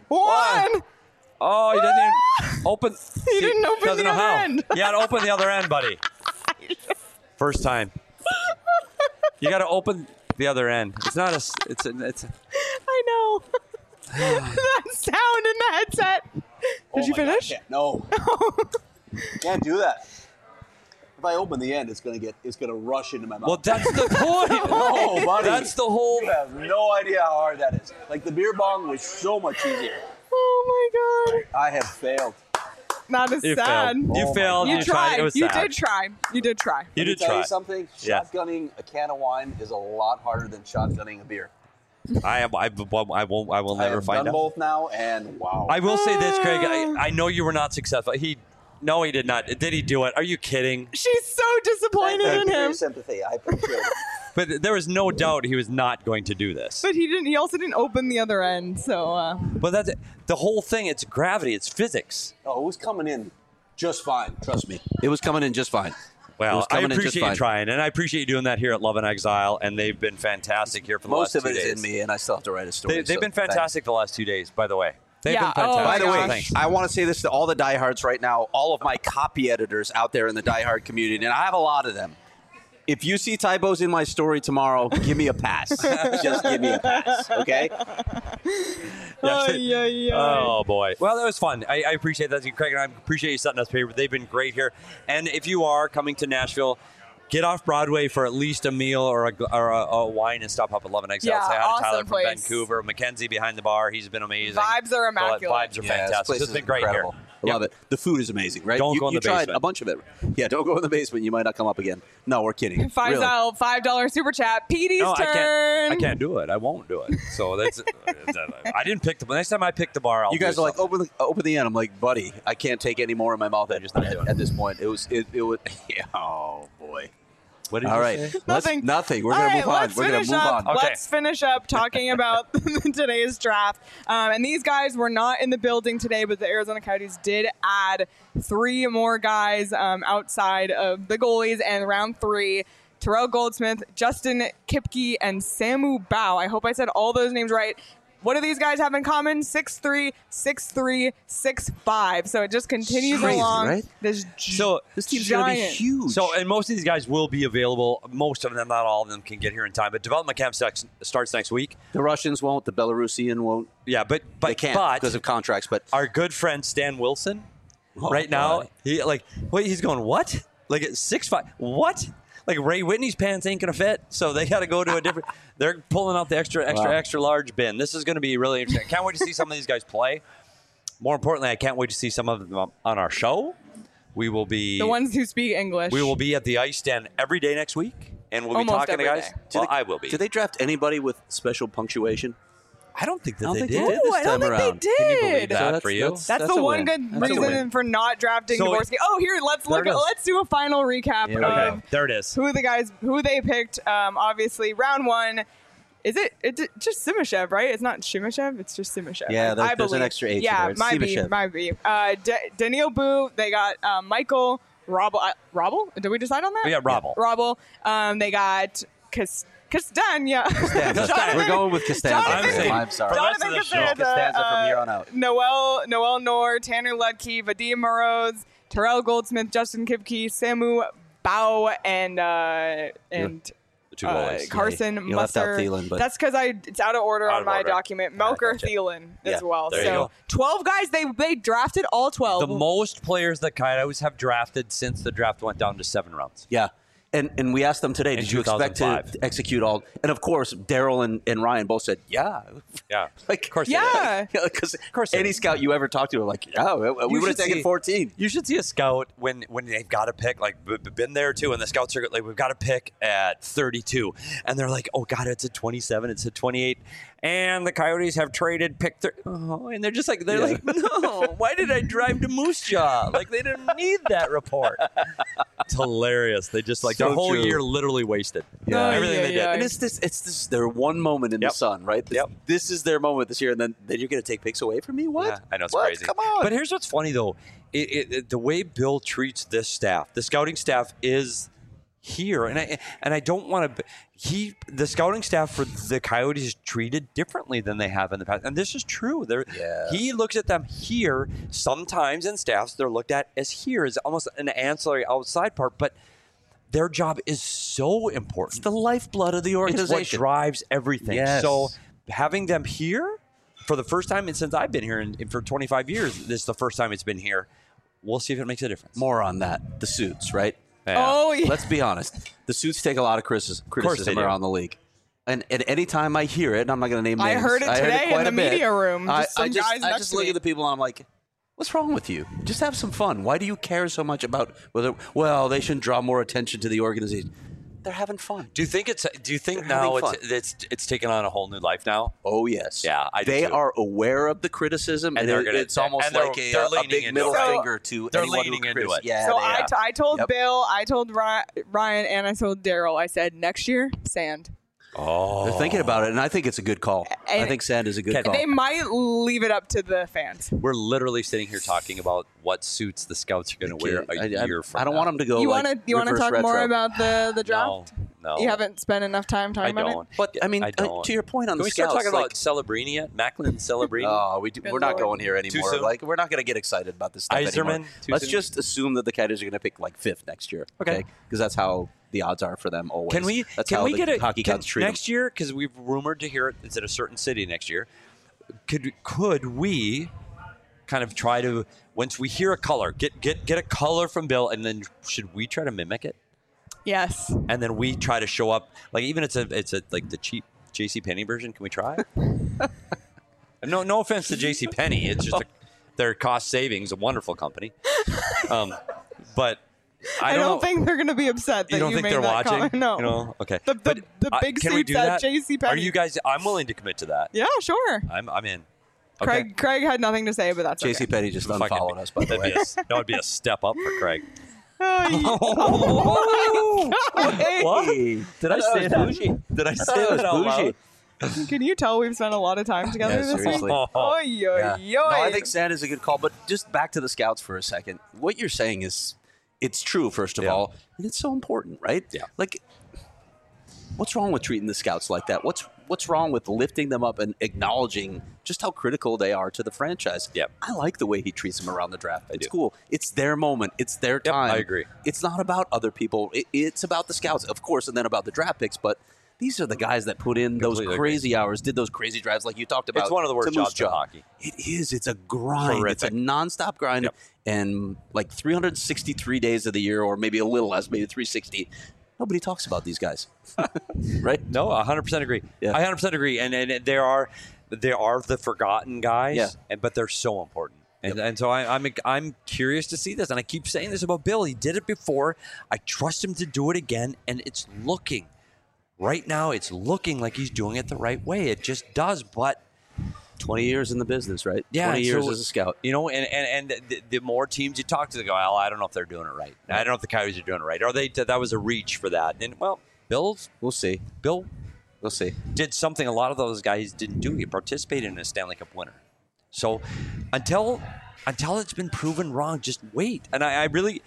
Oh, he doesn't even open. He didn't open doesn't the know other how. end. You got to open the other end, buddy. First time. You got to open the other end. It's not a. It's a. I know. That sound in the headset. Did you finish? No. Can't do that. If I open the end, it's gonna rush into my mouth. Well, that's the point. No, buddy. That's the whole. You have no idea how hard that is. Like, the beer bong was so much easier. Oh my God. I have failed. Not as You sad. failed. You failed. You You tried. It was You sad. did try. You did try. You Let me did tell try. you something. Yeah. Shotgunning a can of wine is a lot harder than shotgunning a beer. I will I never have find done out. both now, and wow. I will say this, Craig. I know you were not successful. No, he did not. Did he do it? Are you kidding? She's so disappointed in him. Your sympathy. I appreciate it. But there was no doubt he was not going to do this. But he didn't. He also didn't open the other end. So But that's the whole thing. It's gravity. It's physics. Oh, it was coming in just fine. Trust me. It was coming in just fine. It Well, was I coming in just appreciate you fine. trying, and I appreciate you doing that here at Love and Exile, and they've been fantastic here for the Most last of 2 it days. is in me, and I still have to write a story. They've been fantastic the last 2 days, by the way. They've Yeah, been oh fantastic. my By the way, gosh. I want to say this to all the diehards right now, all of my copy editors out there in the diehard community, and I have a lot of them. If you see typos in my story tomorrow, give me a pass. Just give me a pass, okay? Oh, boy. Well, that was fun. I appreciate that, Craig, and I appreciate you setting us up here. They've been great here. And if you are coming to Nashville, get off Broadway for at least a meal or a wine and stop up at Love and Exile. Yeah, Say hi to awesome Tyler from place. Vancouver. Mackenzie behind the bar. He's been amazing. Vibes are immaculate. Vibes are Yeah, this fantastic. place So it's is been great incredible. here. I love it. The food is amazing, right? Don't go in you the tried basement. a bunch of it. Yeah, don't go in the basement. You might not come up again. No, we're kidding. Five Really. $5 super chat. Petey's No, turn. I can't do it. I won't do it. So that's. I didn't pick the. Next time I pick the bar, I'll You guys do are like, something. open the end. I'm like, buddy, I can't take any more in my mouth at this point. It was. Yeah, oh boy. What did All you right. say? Nothing. We're All going to right, move on. let's We're going to finish move up. on. Okay. Let's finish up talking about today's draft. And these guys were not in the building today, but the Arizona Coyotes did add 3 more guys outside of the goalies. And round 3, Terrell Goldsmith, Justin Kipke, and Samu Bao. I hope I said all those names right. What do these guys have in common? 6'3", 6'3", 6'5". So it just continues Crazy, along. right? This team's going to be giant. huge. So, and most of these guys will be available. Most of them, not all of them, can get here in time. But development camp starts next week. The Russians won't. The Belarusian won't. Yeah, but They can't because of contracts. But our good friend Stan Wilson, Oh, right now, boy. he's going, what? Like at 6'5", what? Like Ray Whitney's pants ain't gonna fit, so they got to go to a different. They're pulling out the extra large bin. This is going to be really interesting. I can't wait to see some of these guys play. More importantly, I can't wait to see some of them on our show. We will be The ones who speak English. We will be at the ice stand every day next week, and we'll Almost be talking to every guys. day. Well, I will be. Did they draft anybody with special punctuation? I don't think that I don't they think did. they did Ooh, this I don't time think around. they Can you believe did. that So for you? That's a the one win. good That's a reason win. for not drafting So Dvorsky. Here, let's There look. it is. Let's do a final recap Here we of go. There it is. who they picked. Obviously, round 1. Is it just Simashev, right? It's not Shimashev. It's just Simashev. Yeah, I there's an believe. extra H in Yeah, there. It's might Simashev. be. Daniil Boo. They got Michael Robel. Robel? Did we decide on that? Yeah, Robel. Robel. They got Castagna. We're going with Costanza. Jonathan- I'm sorry. For the rest of the show. Costanza from here on out. Noel Noor, Tanner Ludke, Vadim Moroz, Terrell Goldsmith, Justin Kipke, Samu Bao, and The 2 goalies. Carson You left out Musser. Thielen, but- That's because it's out of order Out on of my order. document. Melker gotcha. Thielen Yeah, as well. there you So go. 12 guys. They drafted all 12. The most players that Coyotes have drafted since the draft went down to 7 rounds. Yeah. And we asked them today, In did you expect to 2005. execute all? And of course, Daryl and Ryan both said, yeah. Yeah. Like, Of course they Yeah. Because course they any did. scout you ever talked to are like, yeah, we You would have should taken see- 14. You should see a scout when they've got to pick, like, been there too, and the scouts are like, we've got to pick at 32. And they're like, oh, God, it's at 27, it's at 28. And the Coyotes have traded pick 30. Oh, and they're just like, like, no, why did I drive to Moose Jaw? Like, they didn't need that report. It's hilarious. They just, like, So their whole true. year literally wasted. Yeah. Everything they did. And it's this their one moment in Yep. the sun, right? This is their moment this year, and then you're going to take picks away from me? What? Yeah, I know it's What? crazy. Come on. But here's what's funny though: the way Bill treats this staff, the scouting staff is here, and I don't want to. The scouting staff for the Coyotes is treated differently than they have in the past, and this is true. He looks at them here. Sometimes in staffs, they're looked at as here, as almost an ancillary outside part, but. Their job is so important. It's the lifeblood of the It's organization. what drives everything. Yes. So having them here for the first time since I've been here and for 25 years, this is the first time it's been here. We'll see if it makes a difference. More on that. The suits, right? Yeah. Oh, yeah. Let's be honest. The suits take a lot of criticism do. around the league. And any time I hear it, and I'm not going to name I names. heard it today in quite the a bit. media room. I Just some guys I next just to look me. at the people and I'm like, what's wrong with you? Just have some fun. Why do you care so much about whether? Well, they shouldn't draw more attention to the organization. They're having fun. Do you think They're now having it's taken on a whole new life now? Oh yes. Yeah, I do They too. are aware of the criticism, And and they're gonna- it's almost and they're- like they're a leaning big into middle it. finger to They're anyone leaning who into it. Yeah. So they are. I told Yep. Bill, I told Ryan, and I told Daryl. I said next year, sand. Oh, They're thinking about it, and I think it's a good call. And I think sand is a good Okay, call. They might leave it up to the fans. we're literally sitting here talking about what suits the scouts are going to wear a year from I don't now. want them to go. You like want to reverse talk more retro. about the draft? No. You haven't spent enough time talking I about don't. it. But I mean, I don't. to your point on Can the we start scouts, talking like, about Celebrini yet? Macklin Celebrini? Oh, Good we're not Lord. going here anymore. soon? Like, we're not going to get excited about this stuff anymore. Iserman? Too Let's soon? just assume that the Coyotes are going to pick like 5th next year. Okay. Because that's how the odds are for them always. Can we? That's Can how we the get a hockey gods treat next year? Because we've rumored to hear it's at a certain city next year. Could we kind of try to once we hear a color, get a color from Bill, and then should we try to mimic it? Yes. And then we try to show up like even it's a like the cheap JCPenney version. Can we try? No offense to JCPenney. It's just their cost savings, a wonderful company. But I don't know. think they're going to be upset that You don't think made they're that watching? comment. No. You know? Okay. The But, big can we seats do at that? JCPenney. Are you guys? I'm willing to commit to that. Yeah, sure. I'm in. Okay. Craig had nothing to say, but that's okay. JCPenney just unfollowed us, by the way. That would be a step up for Craig. Oh, What? Did I say that? bougie. Did I say That was that out bougie. loud? can you tell we've spent a lot of time together Yeah, this week? seriously. Oy, Yeah. yo. No, I think Sand is a good call, but just back to the Scouts for a second. What you're saying is, it's true, first of Yeah. all, and it's so important, right? Yeah. Like, what's wrong with treating the Scouts like that? What's wrong with lifting them up and acknowledging just how critical they are to the franchise? Yep. I like the way he treats them around the draft. It's cool. It's their moment. It's their time. I agree. It's not about other people. It's about the Scouts, of course, and then about the draft picks, but these are the guys that put in those Completely crazy hours, did those crazy drives like you talked about. It's one of the worst to Moose jobs in Jaw. hockey. It is. It's a grind. It's a Horrific. nonstop grind. Yep. And like 363 days of the year, or maybe a little less, maybe 360. Nobody talks about these guys, right? No, 100% agree. Yeah. I 100% agree. And there are the forgotten guys, Yeah. but they're so important. And so I'm curious to see this. And I keep saying this about Bill. He did it before. I trust him to do it again. And it's looking right now. It's looking like he's doing it the right way. It just does. But 20 years in the business, right? yeah, 20 years so, as a scout. You know, and the more teams you talk to, they go, well, I don't know if they're doing it right. I don't know if the Coyotes are doing it right. Or that was a reach for that. And well, We'll see. Bill We'll see. did something a lot of those guys didn't do. He participated in a Stanley Cup winner. So until it's been proven wrong, just wait. And I really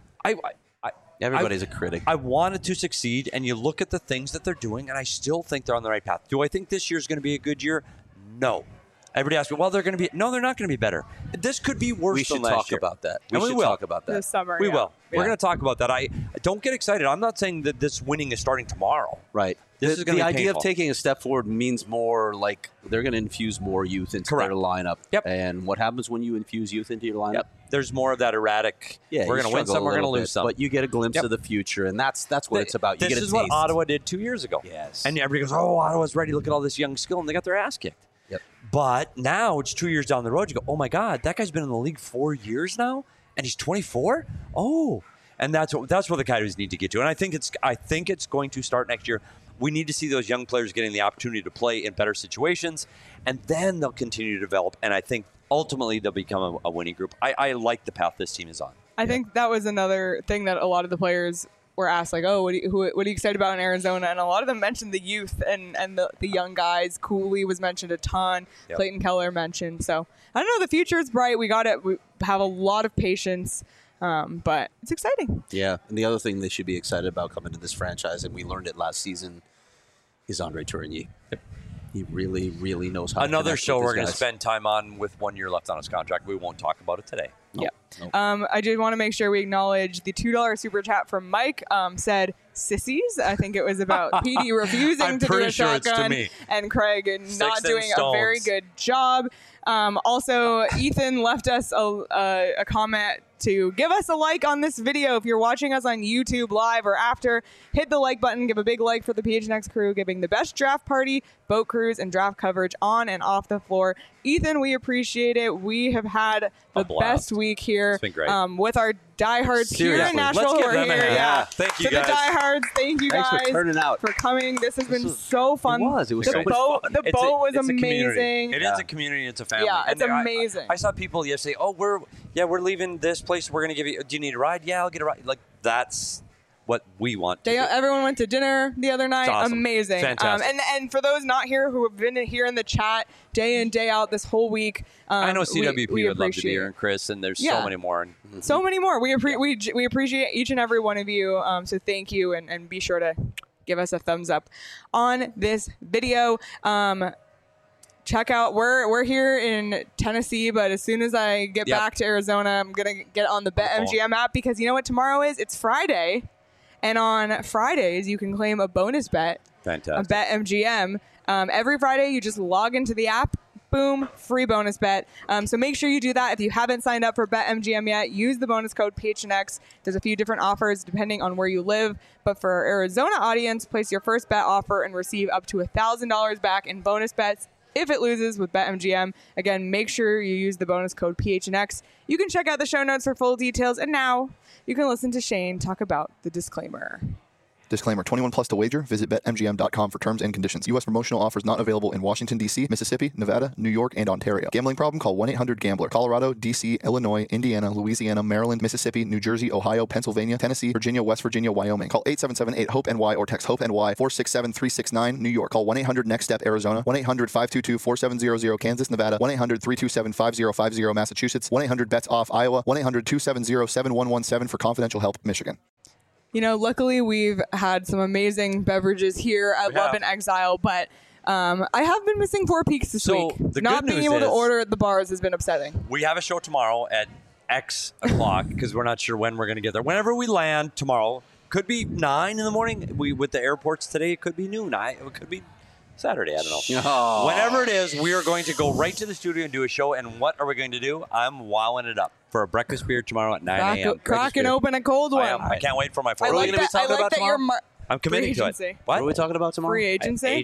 Everybody's a critic. I wanted to succeed, and you look at the things that they're doing, and I still think they're on the right path. Do I think this year's going to be a good year? No. Everybody asks me, well, they're going to be. No, they're not going to be better. This could be worse We than should last talk year. about that. And we should will. talk about that. This summer. We yeah. will. Yeah. We're going to talk about that. I don't get excited. I'm not saying that this winning is starting tomorrow. Right. This is gonna the be idea painful. of taking a step forward means more like they're going to infuse more youth into Correct. their lineup. Yep. And what happens when you infuse youth into your lineup? Yep. There's more of that erratic. Yeah, we're you going to win struggle some. a We're going to little lose bit, some. but you get a glimpse Yep. of the future, and that's what it's about. You This get a is what taste. Ottawa did 2 years ago. Yes. And everybody goes, "Oh, Ottawa's ready. Look at all this young skill," and they got their ass kicked. Yep. But now it's 2 years down the road. You go, "Oh my God, that guy's been in the league 4 years now, and he's 24. Oh." And that's what the Coyotes need to get to. And I think it's going to start next year. We need to see those young players getting the opportunity to play in better situations, and then they'll continue to develop. And I think ultimately they'll become a winning group. I like the path this team is on. I think that was another thing that a lot of the players were asked, like, oh, what are you excited about in Arizona? And a lot of them mentioned the youth and the young guys. Cooley was mentioned a ton. Yep. Clayton Keller mentioned. So I don't know. The future is bright. We have a lot of patience, but it's exciting. Yeah. And the other thing they should be excited about coming to this franchise, and we learned it last season, is Andre Tourigny. He really, really knows how to Another connect show with we're his going to guys. spend time on with 1 year left on his contract. We won't talk about it today. Yeah. Nope. I did want to make sure we acknowledge the $2 super chat from Mike. Said sissies. I think it was about PD refusing I'm to do pretty a sure it's to shotgun me. and Craig not and doing a very stones. good job. Also, Ethan left us a comment to give us a like on this video. If you're watching us on YouTube live or after, hit the like button. Give a big like for the PHNX crew, giving the best draft party, boat cruise, and draft coverage on and off the floor. Ethan, we appreciate it. We have had the blast. best week here. It's been great. With our diehards here Seriously. in Nashville Let's who give are them a here. hand. Yeah. Thank you, to guys. the diehards, thank you Thanks guys for turning out. for coming. This has been so fun. It was the so much boat, fun. The It's boat was it's a community. amazing. It is a community. It's a family. Yeah, it's And amazing. I saw people yesterday. Oh, we're leaving this place. We're going to give you. Do you need a ride? Yeah, I'll get a ride. Like that's what we want. To do. Everyone went to dinner the other night. It's awesome. Amazing. Fantastic. And for those not here who have been here in the chat day in, day out this whole week, I know CWP we would love to be appreciate here, it. and Chris, and there's Yeah. so many more. So many more. We appreciate each and every one of you. So thank you, and be sure to give us a thumbs up on this video. Check out we're here in Tennessee, but as soon as I get Yep. back to Arizona, I'm gonna get on the BetMGM app, because you know what tomorrow is? It's Friday, and on Fridays you can claim a bonus bet on Fantastic. BetMGM. Every Friday you just log into the app. Boom, free bonus bet. So make sure you do that. If you haven't signed up for BetMGM yet, use the bonus code PHNX. There's a few different offers depending on where you live. But for our Arizona audience, place your first bet offer and receive up to $1,000 back in bonus bets if it loses with BetMGM. Again, make sure you use the bonus code PHNX. You can check out the show notes for full details. And now you can listen to Shane talk about the disclaimer. Disclaimer, 21 plus to wager. Visit BetMGM.com for terms and conditions. U.S. promotional offers not available in Washington, D.C., Mississippi, Nevada, New York, and Ontario. Gambling problem? Call 1-800-GAMBLER. Colorado, D.C., Illinois, Indiana, Louisiana, Maryland, Mississippi, New Jersey, Ohio, Pennsylvania, Tennessee, Virginia, West Virginia, Wyoming. Call 877-8-HOPE-NY or text HOPE-NY 467-369. New York. Call 1-800-NEXT-STEP, Arizona. 1-800-522-4700, Kansas, Nevada. 1-800-327-5050, Massachusetts. 1-800-BETS-OFF, Iowa. 1-800-270-7117 for confidential help, Michigan. You know, luckily we've had some amazing beverages here at Love and Exile, but I have been missing Four Peaks this week. The Not good being news able to is- order at the bars has been upsetting. We have a show tomorrow at X o'clock because we're not sure when we're going to get there. Whenever we land tomorrow, could be 9 in the morning. With the airports today, it could be noon. It could be Saturday. I don't know. Oh. Whenever it is, we are going to go right to the studio and do a show. And what are we going to do? I'm wowing it up for a breakfast beer tomorrow at 9 a.m. Cracking open a cold one. I can't wait for my I fourth. like that, I like that you're I'm committing to free it. agency. What are we talking about tomorrow? Free agency?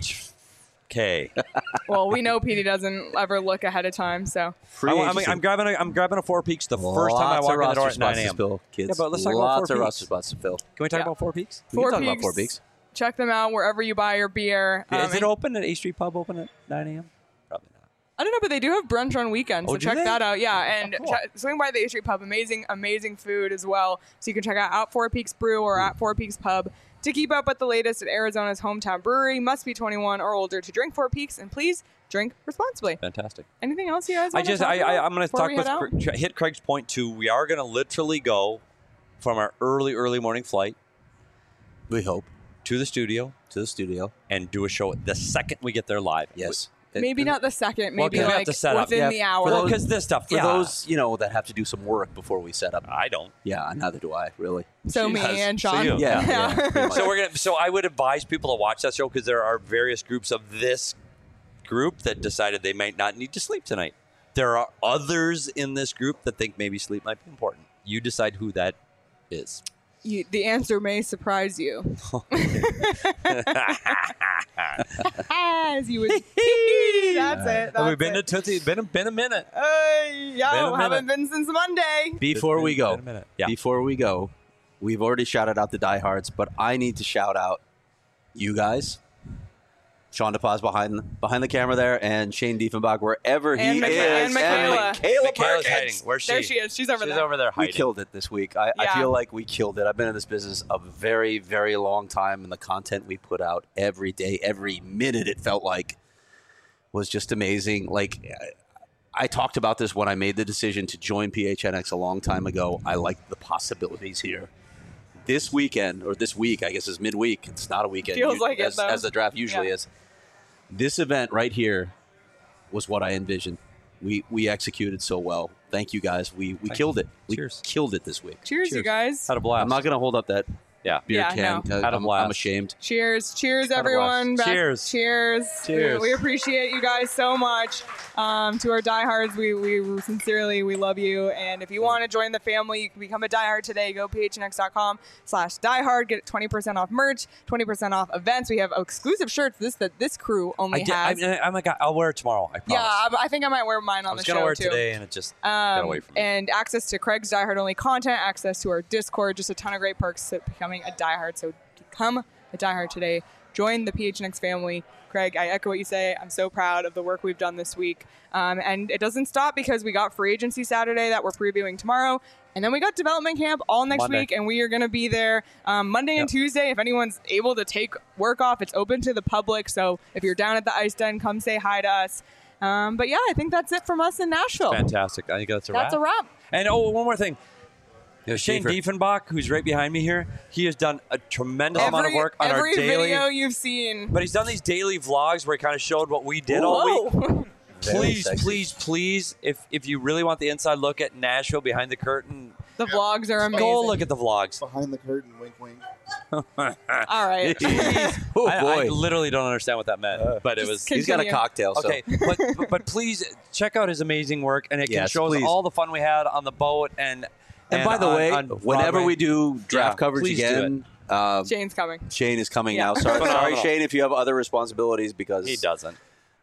HK. Well, we know Petey doesn't ever look ahead of time, so. I'm grabbing a Four Peaks the first time I walk in the door at 9 a.m. Kids. Yeah, but let's talk about Lots Four of Peaks. roster spots to fill. Can we talk about Four Peaks? We can talk about Four Peaks. Check them out wherever you buy your beer. Is it open at A Street Pub? Open at 9 a.m. Probably not. I don't know, but they do have brunch on weekends, so do check they? that out. Yeah, and cool. swing by the A Street Pub. Amazing food as well. So you can check out Four Peaks Brew or at Four Peaks Pub to keep up with the latest at Arizona's hometown brewery. Must be 21 or older to drink Four Peaks, and please drink responsibly. Fantastic. Anything else you guys want to talk I'm about going to before talk we head out? with hit Craig's point too. We are going to literally go from our early morning flight. We hope to the studio and do a show the second we get there live. Yes. Maybe not the second, Well, maybe 'cause we have like to set up. within the hour. Well, because this stuff, For those, that have to do some work before we set up. I don't. Yeah, neither do I, really. So me and Sean. So you. Yeah. pretty much. So I would advise people to watch that show because there are various groups of this group that decided they might not need to sleep tonight. There are others in this group that think maybe sleep might be important. You decide who that is. The answer may surprise you. As you would. That's it. Have we been to Tootsie? Been a minute. Haven't been since Monday. Before we go, Yeah. we've already shouted out the diehards, but I need to shout out you guys. Sean DePaz behind the camera there, and Shane Diefenbach wherever he And is. and Michaela. Michaela Michaela's Perkins. hiding. Where's she? There she is. She's over there. over there We hiding. killed it this week. I Yeah. feel like we killed it. I've been in this business a very, very long time, and the content we put out every day, every minute, it felt like was just amazing. Like, I talked about this when I made the decision to join PHNX a long time ago. I like the possibilities here. This weekend, or this week, I guess is midweek. It's not a weekend. Feels like it, as, though. as the draft usually Yeah. is. This event right here was what I envisioned. We executed so well. Thank you guys. We killed it. We Cheers. killed it this week. Cheers, you guys. Had a blast. I'm not going to hold up that beer Yeah, can. no. Had a blast. I'm ashamed. Cheers. Cheers, Had a everyone. blast. Cheers. Cheers. Cheers. We appreciate you guys so much. To our diehards, we sincerely, we love you. And if you want to join the family, you can become a diehard today. Go phnx.com/diehard. Get 20% off merch, 20% off events. We have exclusive shirts that this crew only has. I'll wear it tomorrow. I promise. Yeah, I think I might wear mine on I was the show gonna wear it too. today, and it just got away from me. And access to Craig's Die Hard only content, access to our Discord, just a ton of great perks to becoming a Die Hard. So become a Die Hard today. Join the PHNX family. Craig, I echo what you say. I'm so proud of the work we've done this week. And it doesn't stop because we got free agency Saturday that we're previewing tomorrow. And then we got development camp all next Monday. week, and we are going to be there Monday and Tuesday. If anyone's able to take work off, it's open to the public. So if you're down at the Ice Den, come say hi to us. But yeah, I think that's it from us in Nashville. Fantastic. I think that's a wrap. That's a wrap. And one more thing. Shane Schaefer. Diefenbach, who's right behind me here, he has done a tremendous amount of work on our Every daily. video you've seen. But he's done these daily vlogs where he kind of showed what we did all week. Whoa. Please, if you really want the inside look at Nashville behind the curtain, The vlogs are amazing. go look at the vlogs. Behind the curtain, wink, wink. All right. Oh, I boy. literally don't understand what that meant, but it was. He's got a Continue. cocktail. So. Okay, but please check out his amazing work, and it can Yes, show us please. all the fun we had on the boat. And by the way, on whenever Broadway. we do draft Yeah, coverage please do again, Shane's coming. Shane is coming Yeah. now. Sorry, Phenomenal. Shane, if you have other responsibilities, because he doesn't.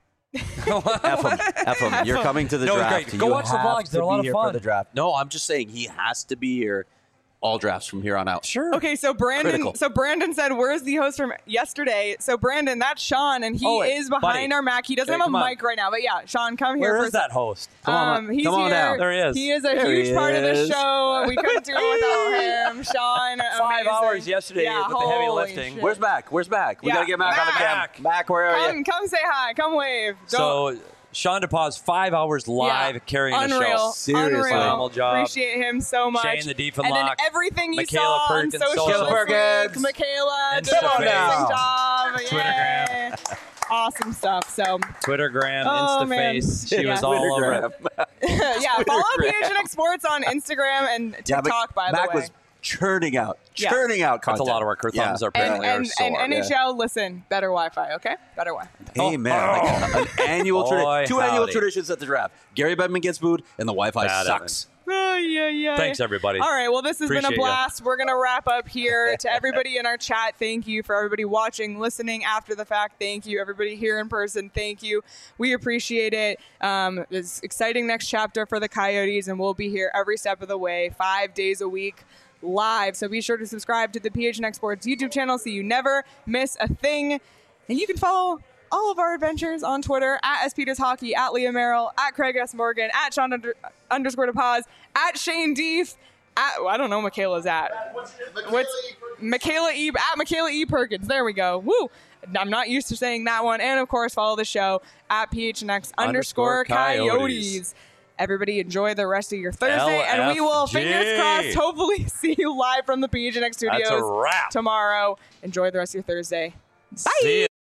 F him. You're coming to the No, it's draft. great. Go You watch the have vlogs. to They're a lot be of here fun. for the draft. No, I'm just saying he has to be here all drafts from here on out. Sure. Okay, so Brandon. Critical. So Brandon said, "Where's the host from yesterday?" So Brandon, that's Sean, and he is behind buddy. our Mac. He doesn't Okay, have a come on. mic right now, but yeah, Sean, come here. Where for is that host? He's Come on here. down. There he is. He is a There huge he part of the is. show. We couldn't do it without him. Sean, 5 amazing. hours yesterday Yeah, with the heavy holy lifting. shit. Where's Mac? Where's Mac? We Yeah, gotta get Mac on the Mac. cam. Mac, where are you? Come say hi. Come wave. So Sean DePaz, 5 hours live carrying Unreal. the show. Seriously. Unreal. Phenomenal job. Appreciate him so much. Shane the Deep and and then Lock. everything you Michaela saw on Perkins, social Social this Perkins. week. Michaela, And did an Stefan. amazing job. Twittergram. Yay. Awesome stuff. So, Twittergram, Oh, man. Instaface. She Yeah. was all over it. yeah, follow PHNX Sports on Instagram and Yeah, TikTok, by the Mac way. was churning out Yeah. content. That's a lot of work. Her thumbs are And, apparently are and, sore. and NHL, listen, better Wi-Fi, okay? Better Wi-Fi. Hey man, like an annual Boy, two annual howdy. traditions at the draft. Gary Bettman gets booed, and the Wi-Fi Bad sucks. Yeah. Thanks, everybody. All right, well, this has been a Appreciate ya. blast. We're going to wrap up here. To everybody in our chat, thank you. For everybody watching, listening after the fact, thank you. Everybody here in person, thank you. We appreciate it. It's exciting next chapter for the Coyotes, and we'll be here every step of the way, 5 days a week, live. So be sure to subscribe to the PHNX Sports YouTube channel so you never miss a thing. And you can follow all of our adventures on Twitter at SPetersHockey, at Leah Merrill, at Craig S. Morgan, at Sean _ DePaz, at Shane Deef, at, I don't know Michaela's at. What's Michaela E. At Michaela E. Perkins. There we go. Woo! I'm not used to saying that one. And of course, follow the show at PHNX _ Coyotes. Everybody enjoy the rest of your Thursday, and we will, LFG. fingers crossed, hopefully see you live from the PHNX studios That's a wrap. tomorrow. Enjoy the rest of your Thursday. Bye. See ya.